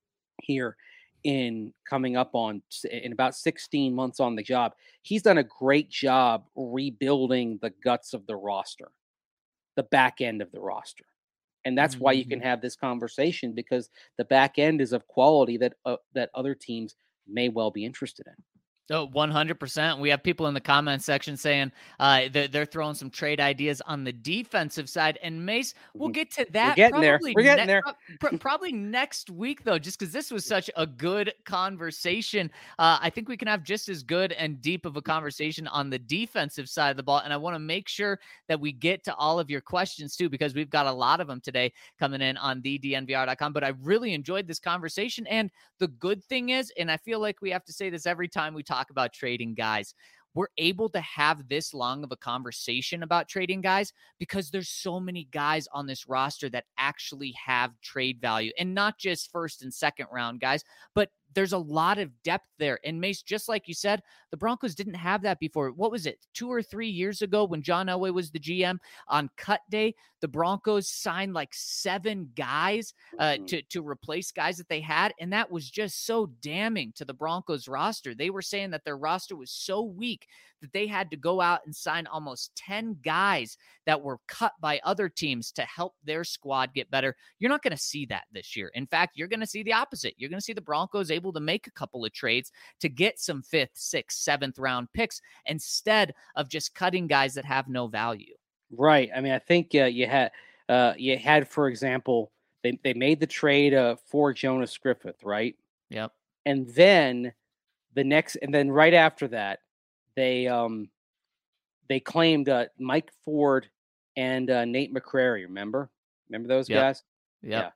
here in coming up on in about sixteen months on the job. He's done a great job rebuilding the guts of the roster, the back end of the roster. And that's mm-hmm. why you can have this conversation because the back end is of quality that uh, that other teams may well be interested in. Oh, one hundred percent. We have people in the comment section saying uh, they're, they're throwing some trade ideas on the defensive side. And Mace, we'll get to that. We're getting probably there. We're getting ne- there. pro- probably next week, though, just because this was such a good conversation. Uh, I think we can have just as good and deep of a conversation on the defensive side of the ball. And I want to make sure that we get to all of your questions, too, because we've got a lot of them today coming in on the D N V R dot com. But I really enjoyed this conversation. And the good thing is, and I feel like we have to say this every time we talk about trading guys, we're able to have this long of a conversation about trading guys because there's so many guys on this roster that actually have trade value, and not just first and second round guys, but there's a lot of depth there. And Mace, just like you said, the Broncos didn't have that before. What was it, two or three years ago when John Elway was the G M on cut day? The Broncos signed like seven guys uh, to, to replace guys that they had. And that was just so damning to the Broncos roster. They were saying that their roster was so weak that they had to go out and sign almost ten guys that were cut by other teams to help their squad get better. You're not going to see that this year. In fact, you're going to see the opposite. You're going to see the Broncos able to make a couple of trades to get some fifth, sixth, seventh round picks instead of just cutting guys that have no value. Right. I mean, I think uh, you had, uh, you had, for example, they, they made the trade uh, for Jonas Griffith, right? Yep. And then the next, and then right after that, they um they claimed uh, Mike Ford and uh, Nate McCrary. Remember, remember those yep. guys? Yep.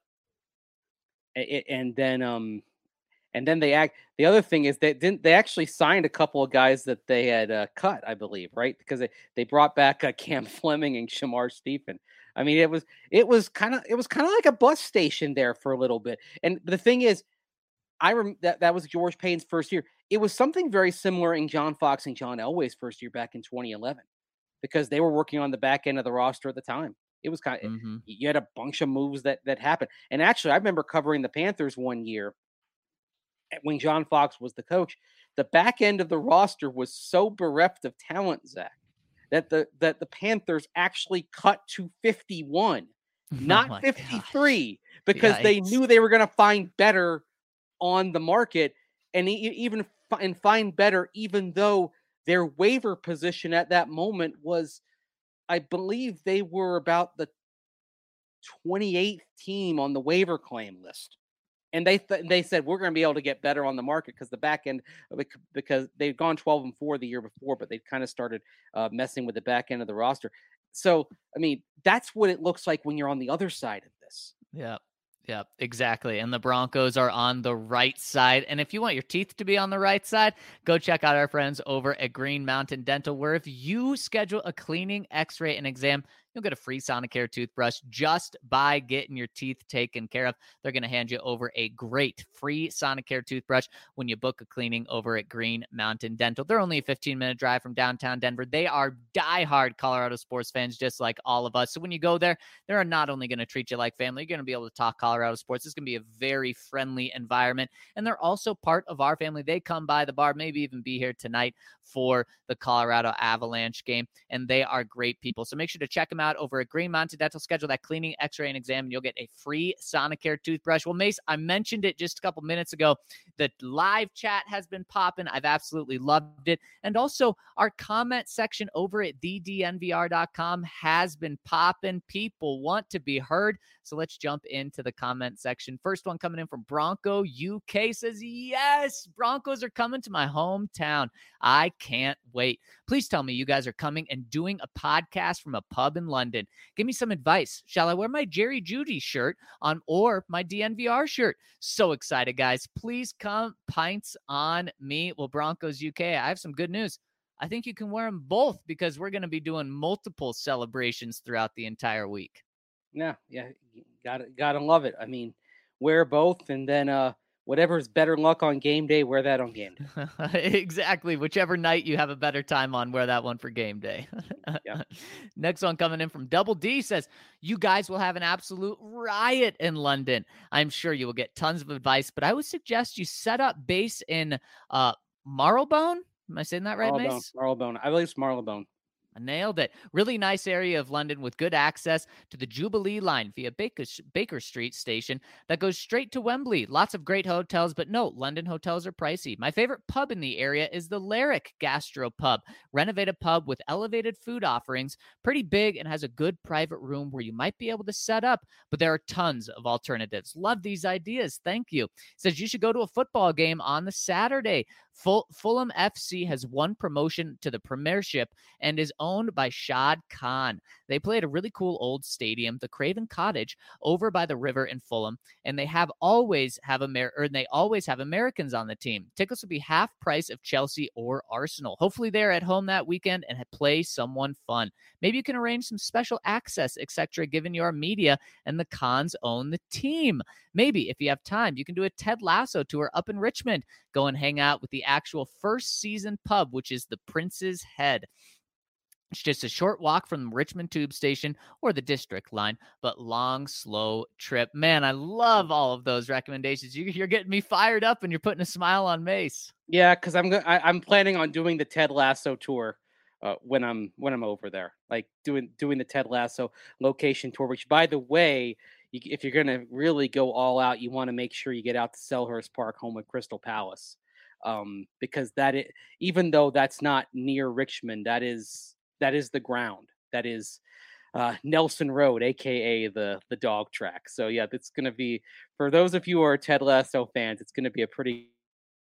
Yeah. It, and then um and then they act. The other thing is they didn't. They actually signed a couple of guys that they had uh, cut, I believe, right? Because they, they brought back uh, Cam Fleming and Shamar Stephen. I mean, it was it was kind of it was kind of like a bus station there for a little bit. And the thing is, I rem- that that was George Payne's first year. It was something very similar in John Fox and John Elway's first year back in twenty eleven, because they were working on the back end of the roster at the time. It was kind of mm-hmm. you had a bunch of moves that that happened. And actually, I remember covering the Panthers one year when John Fox was the coach. The back end of the roster was so bereft of talent, Zach, that the that the Panthers actually cut to fifty-one, not oh fifty-three, gosh. because Yikes. they knew they were going to find better on the market, and even and find better, even though their waiver position at that moment was, I believe they were about the twenty-eighth team on the waiver claim list. And they th- they said, we're going to be able to get better on the market because the back end, because they'd gone twelve and four the year before, but they kind of started uh, messing with the back end of the roster. So, I mean, that's what it looks like when you're on the other side of this. Yeah. Yeah, exactly. And the Broncos are on the right side. And if you want your teeth to be on the right side, go check out our friends over at Green Mountain Dental, where if you schedule a cleaning, x-ray, and exam, you'll get a free Sonicare toothbrush just by getting your teeth taken care of. They're going to hand you over a great free Sonicare toothbrush when you book a cleaning over at Green Mountain Dental. They're only a fifteen-minute drive from downtown Denver. They are diehard Colorado sports fans, just like all of us. So when you go there, they're not only going to treat you like family, you're going to be able to talk Colorado sports. It's going to be a very friendly environment. And they're also part of our family. They come by the bar, maybe even be here tonight for the Colorado Avalanche game. And they are great people. So make sure to check them out over at Green Mountain Dental. Schedule that cleaning, x-ray, and exam, and you'll get a free Sonicare toothbrush. Well, Mace, I mentioned it just a couple minutes ago. The live chat has been popping. I've absolutely loved it. And also, our comment section over at the d n v r dot com has been popping. People want to be heard. So let's jump into the comment section. First one coming in from Bronco U K says, yes, Broncos are coming to my hometown. I can't wait. Please tell me you guys are coming and doing a podcast from a pub in London. Give me some advice. Shall I wear my Jerry Jeudy shirt on or my D N V R shirt? So excited, guys. Please come pints on me. Well, Broncos U K, I have some good news. I think you can wear them both because we're going to be doing multiple celebrations throughout the entire week. Yeah, yeah, gotta gotta love it. I mean, wear both, and then uh, whatever's better luck on game day, wear that on game day. Exactly. Whichever night you have a better time on, wear that one for game day. Yeah. Next one coming in from Double D says, you guys will have an absolute riot in London. I'm sure you will get tons of advice, but I would suggest you set up base in uh, Marylebone. Am I saying that right, Marylebone, Mace? Marylebone. I believe it's Marylebone. I nailed it. Really nice area of London with good access to the Jubilee line via Baker, Baker Street station that goes straight to Wembley. Lots of great hotels, but no, London hotels are pricey. My favorite pub in the area is the Lyric Gastro Pub. Renovated pub with elevated food offerings, pretty big, and has a good private room where you might be able to set up, but there are tons of alternatives. Love these ideas. Thank you. Says you should go to a football game on the Saturday. Ful- Fulham F C has won promotion to the Premiership and is owned by Shad Khan. They play at a really cool old stadium, the Craven Cottage, over by the river in Fulham, and they have always have Amer- or they always have Americans on the team. Tickets will be half price of Chelsea or Arsenal. Hopefully they're at home that weekend and play someone fun. Maybe you can arrange some special access, et cetera, given your media and the Khans own the team. Maybe if you have time, you can do a Ted Lasso tour up in Richmond. Go and hang out with the actual first season pub, which is the Prince's Head. It's just a short walk from Richmond Tube Station or the District line, but long, slow trip. Man, I love all of those recommendations. You, you're getting me fired up and you're putting a smile on Mace. Yeah, because I'm go- I, I'm planning on doing the Ted Lasso tour uh, when I'm when I'm over there, like doing doing the Ted Lasso location tour. Which, by the way, you, if you're gonna really go all out, you want to make sure you get out to Selhurst Park, home of Crystal Palace, um, because that is, even though that's not near Richmond, that is that is the ground. That is uh, Nelson Road, aka the the dog track. So yeah, it's gonna be, for those of you who are Ted Lasso fans, it's gonna be a pretty.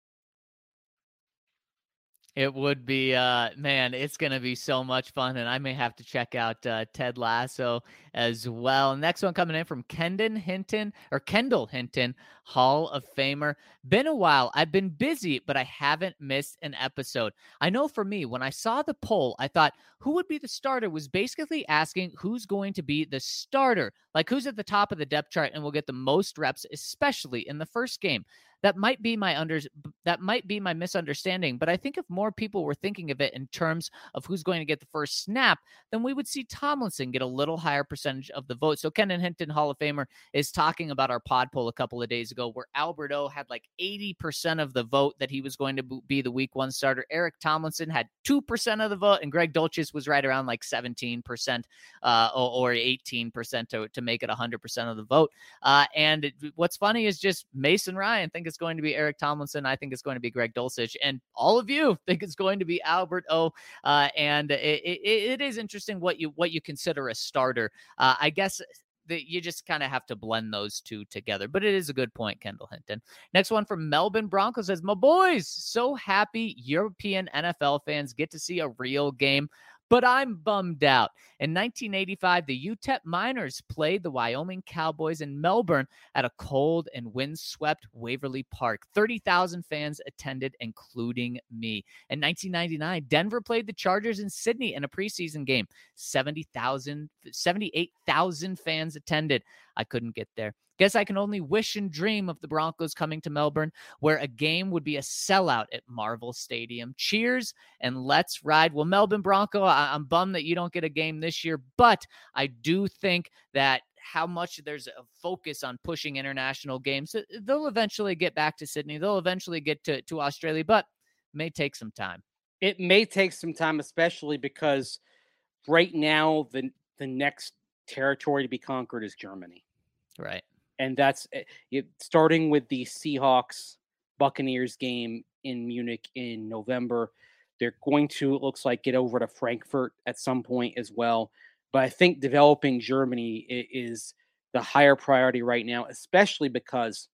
It would be, uh, man, it's going to be so much fun, and I may have to check out uh, Ted Lasso as well. Next one coming in from Kendon Hinton, or Kendall Hinton, Hall of Famer. Been a while. I've been busy, but I haven't missed an episode. I know for me, when I saw the poll, I thought, who would be the starter was basically asking who's going to be the starter, like who's at the top of the depth chart and will get the most reps, especially in the first game. That might be my under that might be my misunderstanding, but I think if more people were thinking of it in terms of who's going to get the first snap, then we would see Tomlinson get a little higher percentage of the vote. So Kendon Hinton, Hall of Famer, is talking about our pod poll a couple of days ago where Albert O had like eighty percent of the vote that he was going to be the week one starter. Eric Tomlinson had two percent of the vote, and Greg Dulcich was right around like seventeen percent uh, or, or eighteen percent to, to make it one hundred percent of the vote. Uh, and what's funny is just Mason Ryan think it's going to be Eric Tomlinson. I think it's going to be Greg Dulcich, and all of you think it's going to be Albert O. Uh, and it, it, it is interesting what you what you consider a starter. Uh, I guess that you just kind of have to blend those two together. But it is a good point, Kendall Hinton. Next one from Melbourne Broncos says, my boys, so happy European N F L fans get to see a real game. But I'm bummed out. In nineteen eighty-five, the U T E P Miners played the Wyoming Cowboys in Melbourne at a cold and windswept Waverly Park. thirty thousand fans attended, including me. In nineteen ninety-nine, Denver played the Chargers in Sydney in a preseason game. seventy thousand, seventy-eight thousand fans attended. I couldn't get there. Guess I can only wish and dream of the Broncos coming to Melbourne, where a game would be a sellout at Marvel Stadium. Cheers and let's ride. Well, Melbourne Bronco, I- I'm bummed that you don't get a game this year, but I do think that how much there's a focus on pushing international games, they'll eventually get back to Sydney. They'll eventually get to, to Australia, but it may take some time. It may take some time, especially because right now the the next territory to be conquered is Germany. Right. And that's it, starting with the Seahawks Buccaneers game in Munich in November. They're going to, it looks like, get over to Frankfurt at some point as well. But I think developing Germany is the higher priority right now, especially because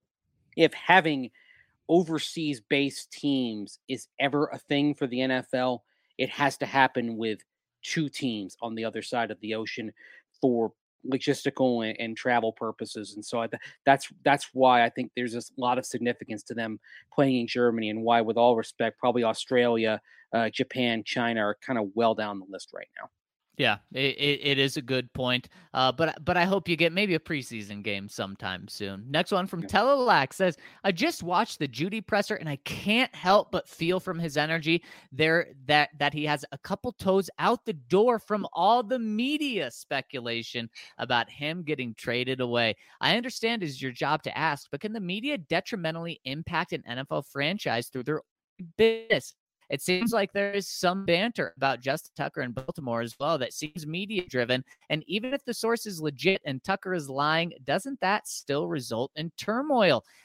if having overseas-based teams is ever a thing for the N F L, it has to happen with two teams on the other side of the ocean for logistical and, and travel purposes. And so I th- that's that's why I think there's a lot of significance to them playing in Germany, and why, with all respect, probably Australia, uh, Japan, China are kind of well down the list right now. Yeah, it, it, it is a good point. Uh, but but I hope you get maybe a preseason game sometime soon. Next one from yeah. Telelac says, I just watched the Judy presser and I can't help but feel from his energy there that, that he has a couple toes out the door from all the media speculation about him getting traded away. I understand it is your job to ask, but can the media detrimentally impact an N F L franchise through their business? It seems like there is some banter about Justin Tucker in Baltimore as well that seems media-driven. And even if the source is legit and Tucker is lying, doesn't that still result in turmoil?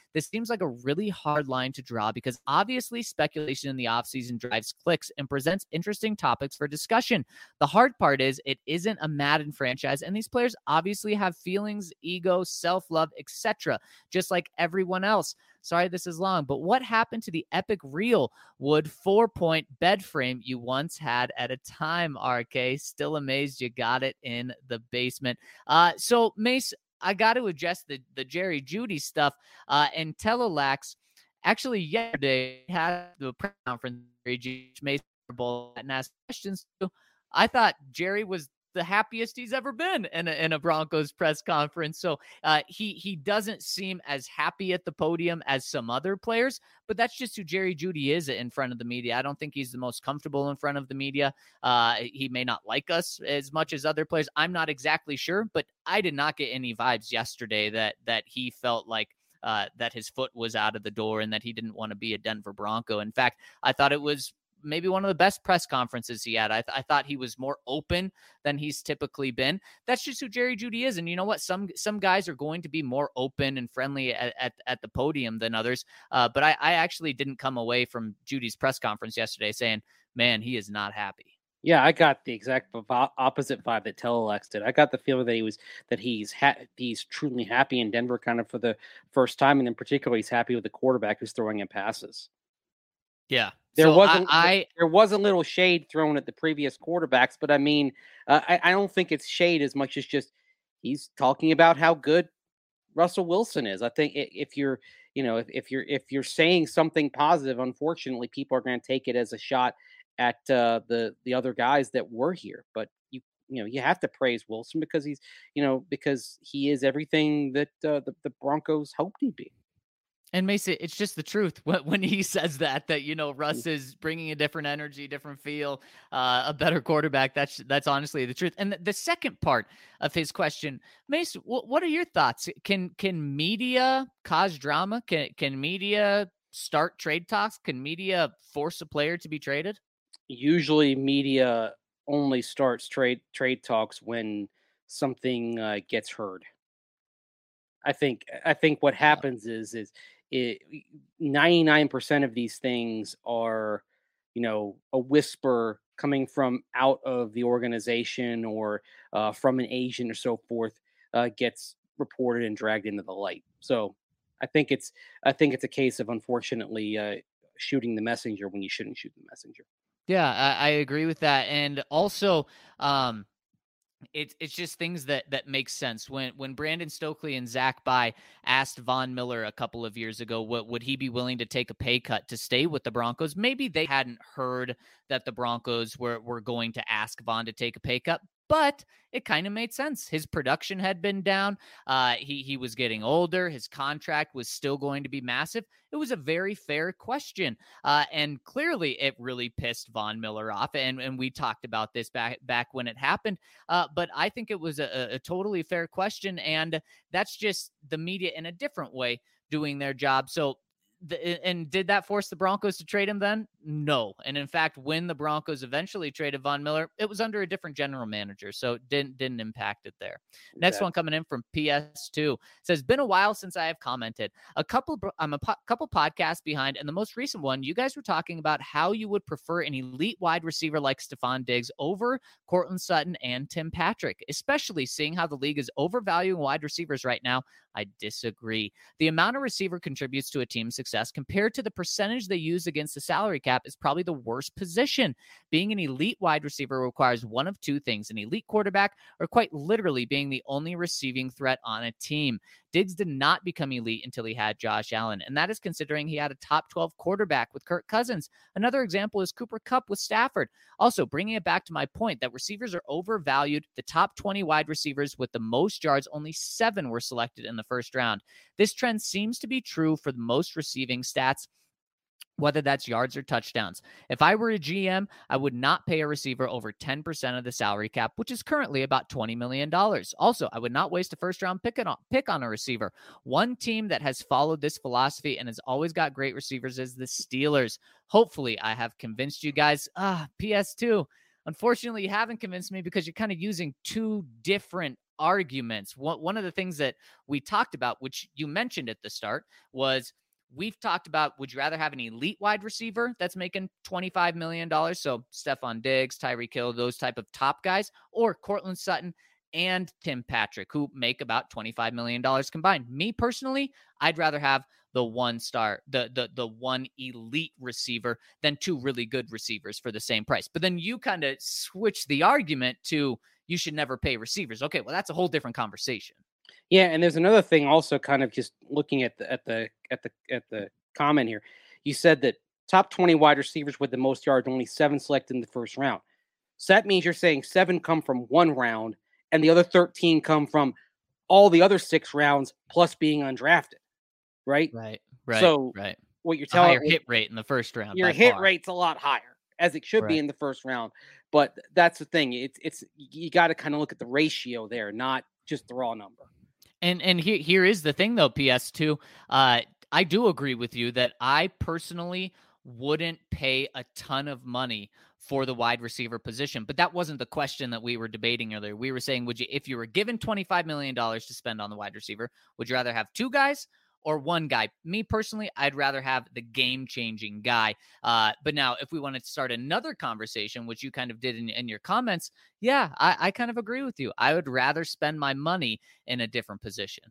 This seems like a really hard line to draw because obviously speculation in the offseason drives clicks and presents interesting topics for discussion. The hard part is it isn't a Madden franchise, and these players obviously have feelings, ego, self-love, et cetera, just like everyone else. Sorry this is long, but what happened to the epic real wood four-point bed frame you once had at a time, R K? Still amazed you got it in the basement. Uh, so, Mace, I got to address the, the Jerry Jeudy stuff. Uh, and Telelax, actually yesterday had the press conference, which Mace and asked questions to. I thought Jerry was the happiest he's ever been in a, in a Broncos press conference. So uh, he he doesn't seem as happy at the podium as some other players, but that's just who Jerry Jeudy is in front of the media. I don't think he's the most comfortable in front of the media. Uh, he may not like us as much as other players. I'm not exactly sure, but I did not get any vibes yesterday that that he felt like uh, that his foot was out of the door and that he didn't want to be a Denver Bronco. In fact, I thought it was maybe one of the best press conferences he had. I, th- I thought he was more open than he's typically been. That's just who Jerry Jeudy is. And you know what? Some some guys are going to be more open and friendly at, at, at the podium than others. Uh, but I, I actually didn't come away from Judy's press conference yesterday saying, man, he is not happy. Yeah, I got the exact opposite vibe that Telelex did. I got the feeling that he was that he's ha- he's truly happy in Denver, kind of for the first time, and in particular, he's happy with the quarterback who's throwing him passes. Yeah, there so wasn't. I, I there was a little shade thrown at the previous quarterbacks, but I mean, uh, I, I don't think it's shade as much as just he's talking about how good Russell Wilson is. I think if you're, you know, if, if you're if you're saying something positive, unfortunately, people are going to take it as a shot at uh, the the other guys that were here. But you you know you have to praise Wilson because he's you know because he is everything that uh, the the Broncos hoped he'd be. And Mason, it's just the truth when he says that, that, you know, Russ is bringing a different energy, different feel, uh, a better quarterback. That's that's honestly the truth. And the, the second part of his question, Mace, w- what are your thoughts? Can can media cause drama? Can can media start trade talks? Can media force a player to be traded? Usually media only starts trade trade talks when something uh, gets heard. I think I think what happens is is it ninety-nine percent of these things are, you know, a whisper coming from out of the organization or uh, from an agent or so forth, uh, gets reported and dragged into the light. So I think it's I think it's a case of unfortunately uh, shooting the messenger when you shouldn't shoot the messenger. Yeah, I, I agree with that. And also, um, It's it's just things that that make sense. When when Brandon Stokely and Zach Bye asked Von Miller a couple of years ago, what would he be willing to take a pay cut to stay with the Broncos? Maybe they hadn't heard that the Broncos were were going to ask Von to take a pay cut, but it kind of made sense. His production had been down. Uh, he he was getting older. His contract was still going to be massive. It was a very fair question, uh, and clearly it really pissed Von Miller off. And and we talked about this back back when it happened. Uh, but I think it was a, a totally fair question, and that's just the media in a different way doing their job. So. The, and did that force the Broncos to trade him then? No. And in fact, when the Broncos eventually traded Von Miller, it was under a different general manager. So it didn't, didn't impact it there. Exactly. Next one coming in from P S two says, been a while since I have commented. A couple, I'm a po- couple podcasts behind. And the most recent one, you guys were talking about how you would prefer an elite wide receiver like Stephon Diggs over Courtland Sutton and Tim Patrick, especially seeing how the league is overvaluing wide receivers right now. I disagree. The amount a receiver contributes to a team's success compared to the percentage they use against the salary cap is probably the worst position. Being an elite wide receiver requires one of two things, an elite quarterback or quite literally being the only receiving threat on a team. Diggs did not become elite until he had Josh Allen, and that is considering he had a top twelve quarterback with Kirk Cousins. Another example is Cooper Kupp with Stafford. Also, bringing it back to my point that receivers are overvalued, the top twenty wide receivers with the most yards, only seven were selected in the first round. This trend seems to be true for the most receiving stats, whether that's yards or touchdowns. If I were a G M, I would not pay a receiver over ten percent of the salary cap, which is currently about twenty million dollars. Also, I would not waste a first-round pick on, pick on a receiver. One team that has followed this philosophy and has always got great receivers is the Steelers. Hopefully, I have convinced you guys. Ah, P S two. Unfortunately, you haven't convinced me because you're kind of using two different arguments. One, one of the things that we talked about, which you mentioned at the start, was we've talked about, would you rather have an elite wide receiver that's making twenty-five million dollars? So Stephon Diggs, Tyreek Hill, those type of top guys, or Cortland Sutton and Tim Patrick, who make about twenty-five million dollars combined. Me personally, I'd rather have the one star, the the the one elite receiver than two really good receivers for the same price. But then you kind of switch the argument to you should never pay receivers. Okay, well, that's a whole different conversation. Yeah, and there's another thing also, kind of just looking at the at the at the at the comment here. You said that top twenty wide receivers with the most yards, only seven selected in the first round. So that means you're saying seven come from one round and the other thirteen come from all the other six rounds plus being undrafted. Right? Right. Right. So right. what you're A telling higher hit rate in the first round. your by hit far. rate's a lot higher, as it should be Right. in the first round. But that's the thing. It's it's you got to kind of look at the ratio there, not just the raw number. And and here here is the thing though, P S two. Uh, I do agree with you that I personally wouldn't pay a ton of money for the wide receiver position, but that wasn't the question that we were debating earlier. We were saying, would you, if you were given twenty-five million dollars to spend on the wide receiver, would you rather have two guys or one guy? Me personally, I'd rather have the game-changing guy. Uh, but now, if we wanted to start another conversation, which you kind of did in, in your comments, yeah, I, I kind of agree with you. I would rather spend my money in a different position.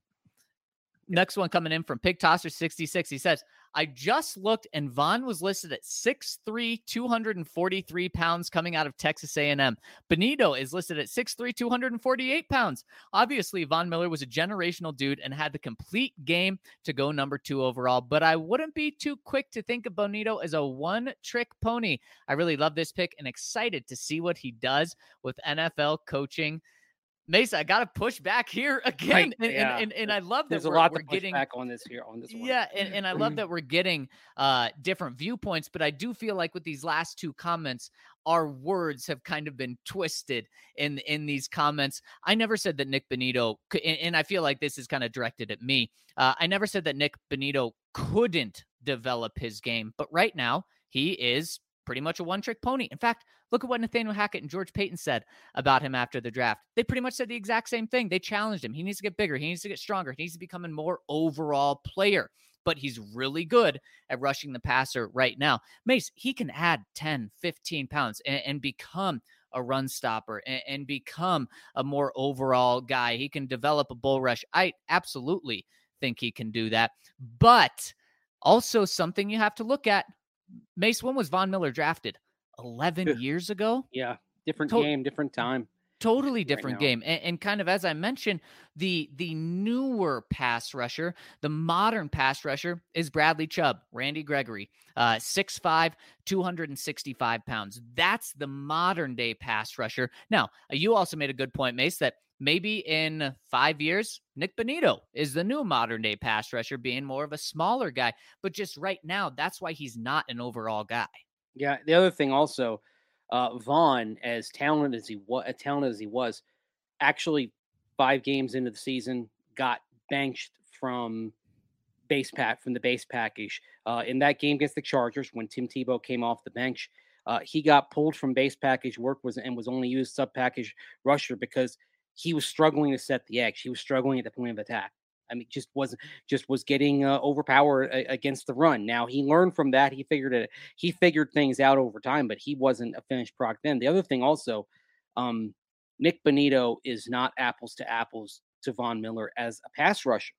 Next one coming in from Pig Tosser sixty-six. He says, I just looked and Von was listed at six three, two hundred forty-three pounds coming out of Texas A and M. Benito is listed at six three, two hundred forty-eight pounds. Obviously, Von Miller was a generational dude and had the complete game to go number two overall, but I wouldn't be too quick to think of Bonito as a one-trick pony. I really love this pick and excited to see what he does with N F L coaching. Mesa, I got to push back here again. Right, And, yeah. and, and, and I love that There's a we're, lot we're to push getting back on this here on this one. Yeah, and, and I love that we're getting uh, different viewpoints, but I do feel like with these last two comments, our words have kind of been twisted in in these comments. I never said that Nick Bonitto, and, and I feel like this is kind of directed at me. Uh, I never said that Nick Bonitto couldn't develop his game, but right now he is pretty much a one-trick pony. In fact, look at what Nathaniel Hackett and George Paton said about him after the draft. They pretty much said the exact same thing. They challenged him. He needs to get bigger. He needs to get stronger. He needs to become a more overall player. But he's really good at rushing the passer right now. Mace, he can add ten, fifteen pounds and, and become a run stopper and, and become a more overall guy. He can develop a bull rush. I absolutely think he can do that. But also something you have to look at, Mace, when was Von Miller drafted? eleven years ago? Yeah, different To- game, different time. Totally Right different now. game. And, and kind of, as I mentioned, the the newer pass rusher, the modern pass rusher is Bradley Chubb, Randy Gregory, uh, six five, two hundred sixty-five pounds. That's the modern day pass rusher. Now, uh, you also made a good point, Mace, that maybe in five years, Nick Bonitto is the new modern day pass rusher, being more of a smaller guy. But just right now, that's why he's not an overall guy. Yeah, the other thing also, uh, Vaughn, as talented as he was, as talented as he was, actually five games into the season got benched from base pack from the base package. Uh, in that game against the Chargers, when Tim Tebow came off the bench, uh, he got pulled from base package work was and was only used sub package rusher because he was struggling to set the edge. He was struggling at the point of attack. I mean, just wasn't just was getting uh, overpowered a, against the run. Now he learned from that. He figured it. He figured things out over time, but he wasn't a finished product then. The other thing also, um, Nick Bonitto is not apples to apples to Von Miller as a pass rusher.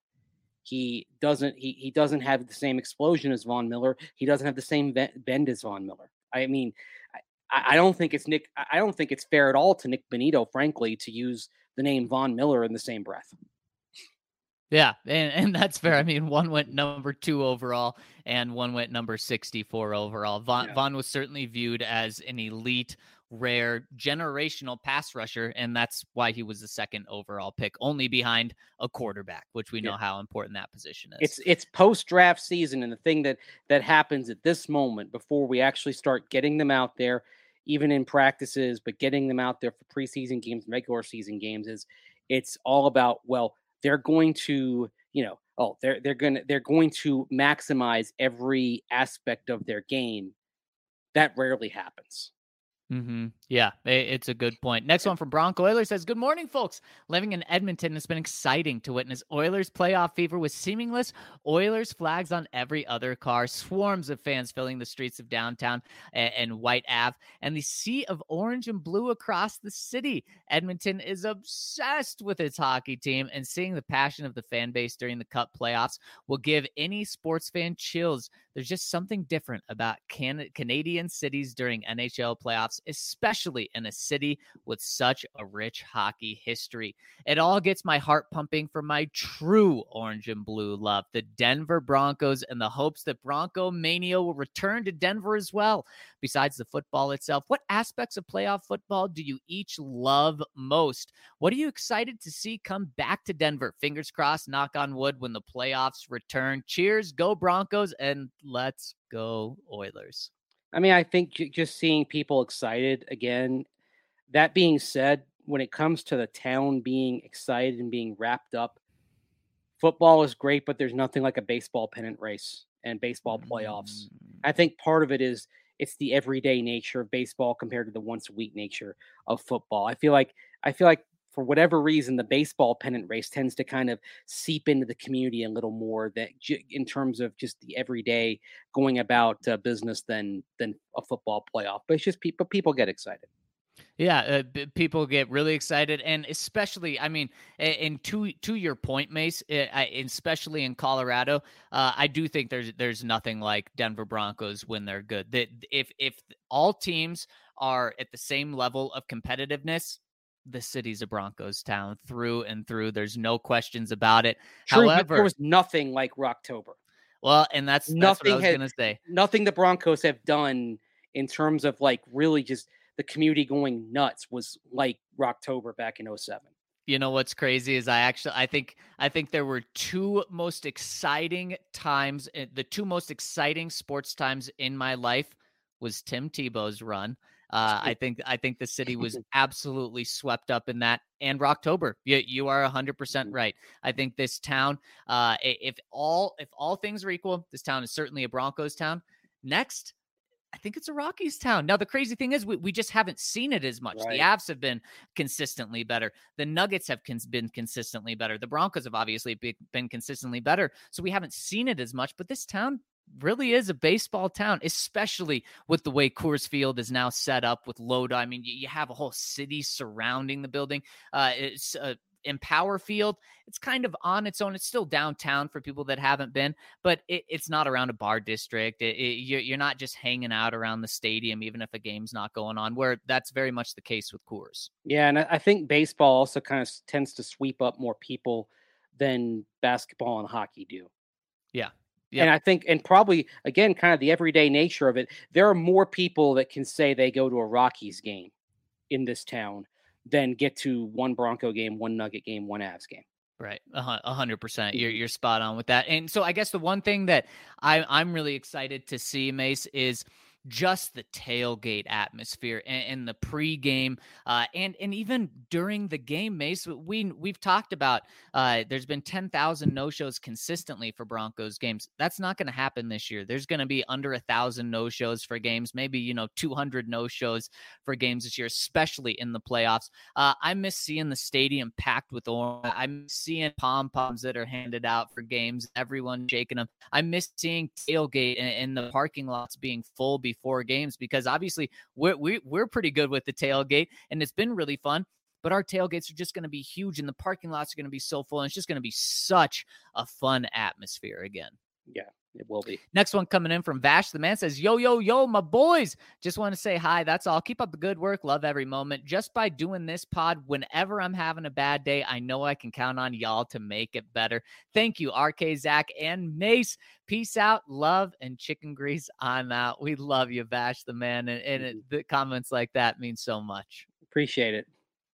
He doesn't. He he doesn't have the same explosion as Von Miller. He doesn't have the same bend as Von Miller. I mean, I, I don't think it's Nick. I don't think it's fair at all to Nick Bonitto, frankly, to use the name Von Miller in the same breath. Yeah, and, and that's fair. I mean, one went number two overall and one went number sixty-four overall. Von, Yeah. Von was certainly viewed as an elite, rare, generational pass rusher, and that's why he was the second overall pick, only behind a quarterback, which we know Yeah. how important that position is. It's it's post draft season, and the thing that that happens at this moment before we actually start getting them out there, even in practices, but getting them out there for preseason games, regular season games, is it's all about, well, they're going to, you know, oh, they're they're gonna they're going to maximize every aspect of their game. That rarely happens. Mm-hmm. Yeah, it's a good point. Next one from Bronco Oilers says, good morning, folks. Living in Edmonton, it's been exciting to witness Oilers playoff fever with seamless Oilers flags on every other car, swarms of fans filling the streets of downtown and, and White Ave, and the sea of orange and blue across the city. Edmonton is obsessed with its hockey team, and seeing the passion of the fan base during the Cup playoffs will give any sports fan chills. There's just something different about Can- Canadian cities during N H L playoffs, especially in a city with such a rich hockey history. It all gets my heart pumping for my true orange and blue love, the Denver Broncos, and the hopes that Bronco Mania will return to Denver as well. Besides the football itself, what aspects of playoff football do you each love most? What are you excited to see come back to Denver? Fingers crossed, knock on wood, when the playoffs return. Cheers, go Broncos, and let's go Oilers. I mean, I think j- just seeing people excited again. That being said, when it comes to the town being excited and being wrapped up, football is great, but there's nothing like a baseball pennant race and baseball playoffs. Mm. I think part of it is it's the everyday nature of baseball compared to the once a week nature of football. I feel like I feel like for whatever reason, the baseball pennant race tends to kind of seep into the community a little more that j- in terms of just the everyday going about uh, business than than a football playoff. But it's just people people get excited. Yeah, uh, b- people get really excited, and especially, I mean, a- and to to your point, Mace, uh, I, especially in Colorado, uh, I do think there's there's nothing like Denver Broncos when they're good. That if if all teams are at the same level of competitiveness, the city's a Broncos town through and through. There's no questions about it. True, but there However, was nothing like Rocktober. well, and that's that's what I Nothing was had gonna say. nothing the Broncos have done in terms of like really just the community going nuts was like Rocktober back in oh seven. You know what's crazy is I actually I think I think there were two most exciting times. eh, The two most exciting sports times in my life was Tim Tebow's run. Uh, I think I think the city was absolutely swept up in that, and Rocktober. You you are a hundred percent right. I think this town, uh, i- if all if all things are equal, this town is certainly a Broncos town. Next, I think it's a Rockies town. Now, the crazy thing is we, we just haven't seen it as much. Right. The Avs have been consistently better. The Nuggets have cons- been consistently better. The Broncos have obviously be- been consistently better. So we haven't seen it as much, but this town really is a baseball town, especially with the way Coors Field is now set up with Loda. I mean, you, you have a whole city surrounding the building. Uh, it's uh, Empower Field, it's kind of on its own. It's still downtown for people that haven't been, but it, it's not around a bar district. It, it, you're, you're not just hanging out around the stadium, even if a game's not going on, where that's very much the case with Coors. Yeah, and I I think baseball also kind of tends to sweep up more people than basketball and hockey do. Yeah. And Yep. I think, and probably again, kind of the everyday nature of it, there are more people that can say they go to a Rockies game in this town than get to one Bronco game, one Nugget game, one Avs game. Right. A hun- a hundred percent. You're, Mhm. you're spot on with that. And so I guess the one thing that I, I'm really excited to see, Mace, is just the tailgate atmosphere and, and the pregame, uh, and and even during the game, Mace. We we've talked about uh, there's been ten thousand no shows consistently for Broncos games. That's not going to happen this year. There's going to be under a thousand no shows for games, maybe you know two hundred no shows for games this year, especially in the playoffs. Uh, I miss seeing the stadium packed with orange. I miss seeing pom poms that are handed out for games, everyone shaking them. I miss seeing tailgate and, and the parking lots being full before games, because obviously we're, we, we're pretty good with the tailgate and it's been really fun, but our tailgates are just going to be huge and the parking lots are going to be so full. And it's just going to be such a fun atmosphere again. Yeah, it will be. Next one coming in from Vash. The man says, yo, yo, yo, my boys. Just want to say hi. That's all. Keep up the good work. Love every moment. Just by doing this pod, whenever I'm having a bad day, I know I can count on y'all to make it better. Thank you, R K, Zach, and Mace. Peace out, love, and chicken grease. I'm out. We love you, Vash, the man. And, and it, the comments like that mean so much. Appreciate it.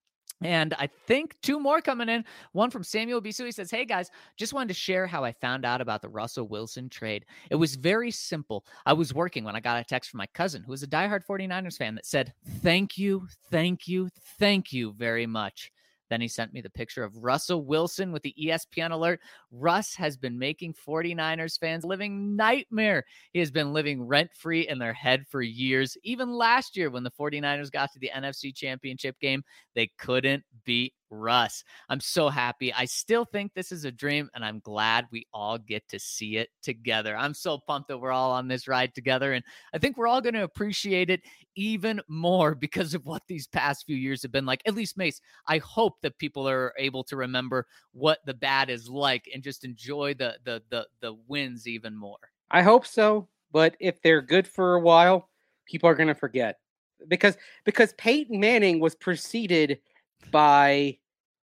And I think two more coming in. One from Samuel Bisu. He says, hey, guys, just wanted to share how I found out about the Russell Wilson trade. It was very simple. I was working when I got a text from my cousin, who is a diehard 49ers fan, that said, thank you, thank you, thank you very much. Then he sent me the picture of Russell Wilson with the E S P N alert. Russ has been making 49ers fans living nightmare. He has been living rent-free in their head for years. Even last year when the 49ers got to the N F C Championship game, they couldn't beat Russ. I'm so happy. I still think this is a dream, and I'm glad we all get to see it together. I'm so pumped that we're all on this ride together, and I think we're all going to appreciate it even more because of what these past few years have been like. At least, Mace, I hope that people are able to remember what the bad is like and just enjoy the the the, the wins even more. I hope so, but if they're good for a while, people are going to forget. Because because Peyton Manning was preceded by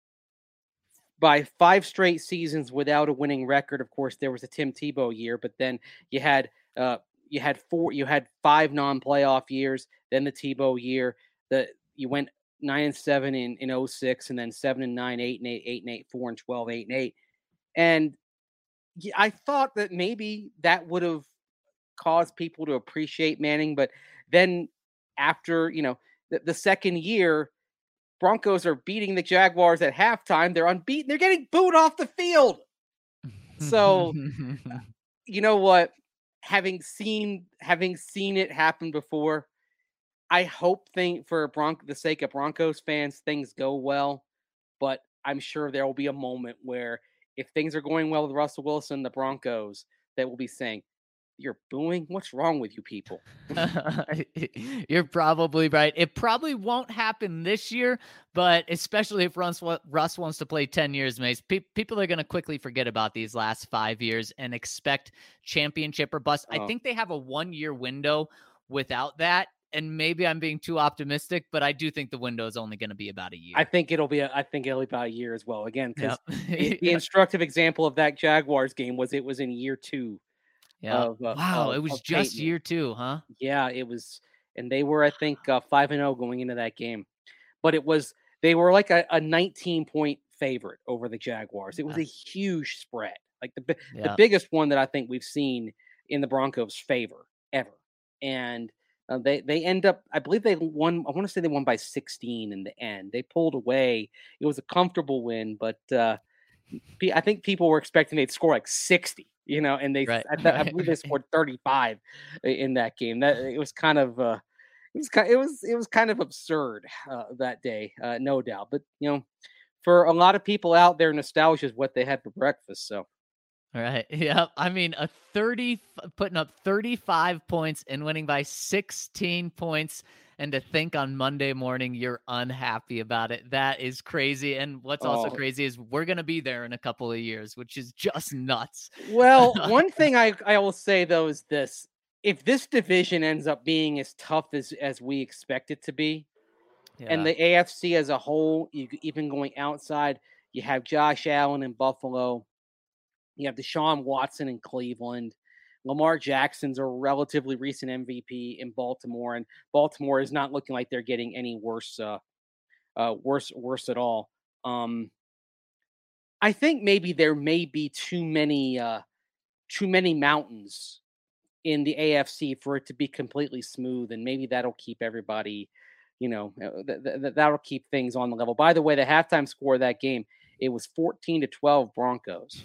by five straight seasons without a winning record. Of course, there was a Tim Tebow year, but then you had uh, you had four, you had five non-playoff years, then the Tebow year. The you went nine and seven in in oh six, and then seven and nine, eight and eight, eight and eight, four and twelve, eight and eight. And I thought that maybe that would have caused people to appreciate Manning, but then after you know the, the second year, Broncos are beating the Jaguars at halftime. They're unbeaten. They're getting booed off the field. So, you know what? Having seen having seen it happen before, I hope thing for Bronco the sake of Broncos fans, things go well. But I'm sure there will be a moment where if things are going well with Russell Wilson, the Broncos, that will be saying, "You're booing? What's wrong with you people?" You're probably right. It probably won't happen this year, but especially if Russ, Russ wants to play ten years, Mace, pe- people are going to quickly forget about these last five years and expect championship or bust. Oh. I think they have a one-year window without that, and maybe I'm being too optimistic, but I do think the window is only going to be about a year. I think it'll be. A, I think it'll be about a year as well. Again, because yep. the, the instructive example of that Jaguars game was it was in year two. Yeah. Of, uh, wow. Of, it was just Peyton. year two, huh? Yeah, it was. And they were, I think, uh, five and oh going into that game. But it was, they were like a, a nineteen point favorite over the Jaguars. It was yeah. a huge spread. Like the, yeah. the biggest one that I think we've seen in the Broncos' favor ever. And uh, they, they end up, I believe they won, I want to say they won by sixteen in the end. They pulled away. It was a comfortable win, but uh, I think people were expecting they'd score like sixty. You know, and they, right. I, th- I believe they scored thirty-five in that game. That it was kind of, uh, it was kind, it was, it was kind of absurd uh, that day, uh, no doubt. But you know, for a lot of people out there, nostalgia is what they had for breakfast. So, all right, yeah, I mean, a thirty putting up thirty-five points and winning by sixteen points. And to think on Monday morning you're unhappy about it, that is crazy. And what's also oh. crazy is we're going to be there in a couple of years, which is just nuts. Well, one thing I, I will say, though, is this. If this division ends up being as tough as, as we expect it to be, yeah. and the A F C as a whole, you, even going outside, you have Josh Allen in Buffalo, you have Deshaun Watson in Cleveland, Lamar Jackson's a relatively recent M V P in Baltimore, and Baltimore is not looking like they're getting any worse, uh, uh, worse, worse at all. Um, I think maybe there may be too many, uh, too many mountains in the A F C for it to be completely smooth, and maybe that'll keep everybody, you know, th- th- that'll keep things on the level. By the way, the halftime score of that game, it was fourteen to twelve Broncos.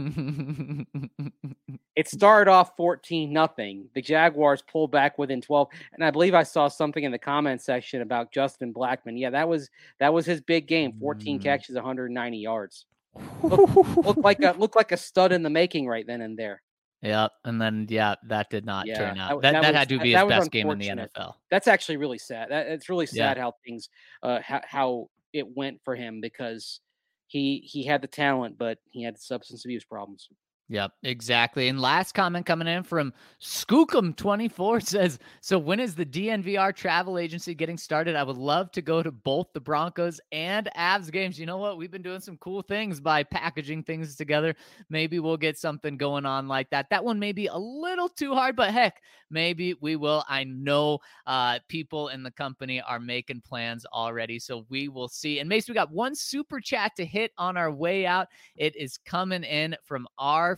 It started off fourteen nothing. The Jaguars pulled back within twelve. And I believe I saw something in the comment section about Justin Blackmon. Yeah, that was that was his big game. fourteen mm. catches, one hundred ninety yards. Looked, looked like a looked like a stud in the making right then and there. Yeah, and then yeah, that did not yeah, turn out. That that, that was, had to be his best game in the N F L. That's actually really sad. That, it's really sad yeah. how things uh how, how it went for him, because He he had the talent, but he had substance abuse problems. Yep, exactly. And last comment coming in from Skookum twenty-four says, so when is the D N V R travel agency getting started? I would love to go to both the Broncos and Avs games. You know what? We've been doing some cool things by packaging things together. Maybe we'll get something going on like that. That one may be a little too hard, but heck, maybe we will. I know uh, people in the company are making plans already, so we will see. And Mace, we got one super chat to hit on our way out. It is coming in from our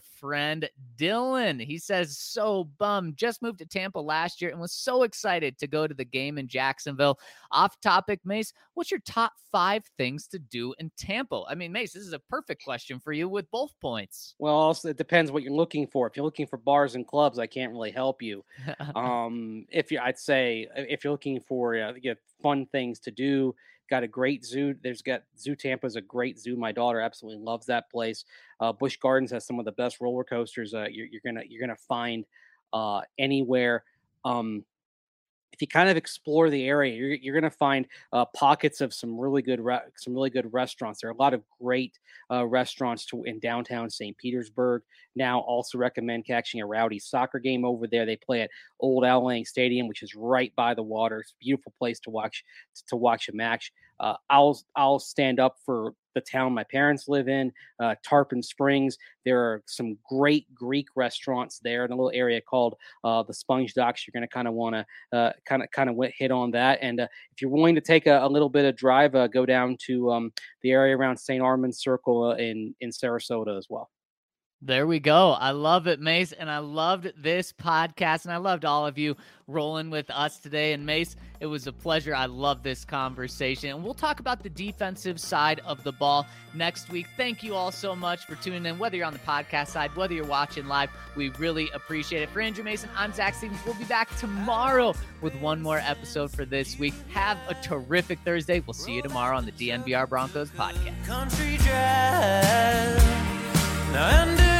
friend Dylan. He says, so bummed. Just moved to Tampa last year and was so excited to go to the game in Jacksonville. Off topic, Mace, what's your top five things to do in Tampa? I mean, Mace, this is a perfect question for you with both points. Well, also, it depends what you're looking for. If you're looking for bars and clubs, I can't really help you. um, if you, I'd say, if you're looking for uh, you know, fun things to do, got a great zoo. There's got Zoo Tampa is a great zoo. My daughter absolutely loves that place. Uh, Busch Gardens has some of the best roller coasters uh, you're, you're gonna you're gonna find uh, anywhere. Um, if you kind of explore the area, you're, you're going to find uh, pockets of some really good, re- some really good restaurants. There are a lot of great uh, restaurants to, in downtown Saint Petersburg. Now, also recommend catching a rowdy soccer game over there. They play at Old Al Lang Stadium, which is right by the water. It's a beautiful place to watch to watch a match. Uh, I'll I'll stand up for the town my parents live in, uh, Tarpon Springs. There are some great Greek restaurants there in a little area called uh, the Sponge Docks. You're going to kind of want to kind of kind of hit on that. And uh, if you're willing to take a, a little bit of drive, uh, go down to um, the area around Saint Armand's Circle uh, in in Sarasota as well. There we go. I love it, Mace, and I loved this podcast, and I loved all of you rolling with us today. And Mace, it was a pleasure. I love this conversation, and we'll talk about the defensive side of the ball next week. Thank you all so much for tuning in, whether you're on the podcast side, whether you're watching live. We really appreciate it. For Andrew Mason, I'm Zach Stevens. We'll be back tomorrow with one more episode for this week. Have a terrific Thursday. We'll see you tomorrow on the D N V R Broncos podcast. Country jazz. Now,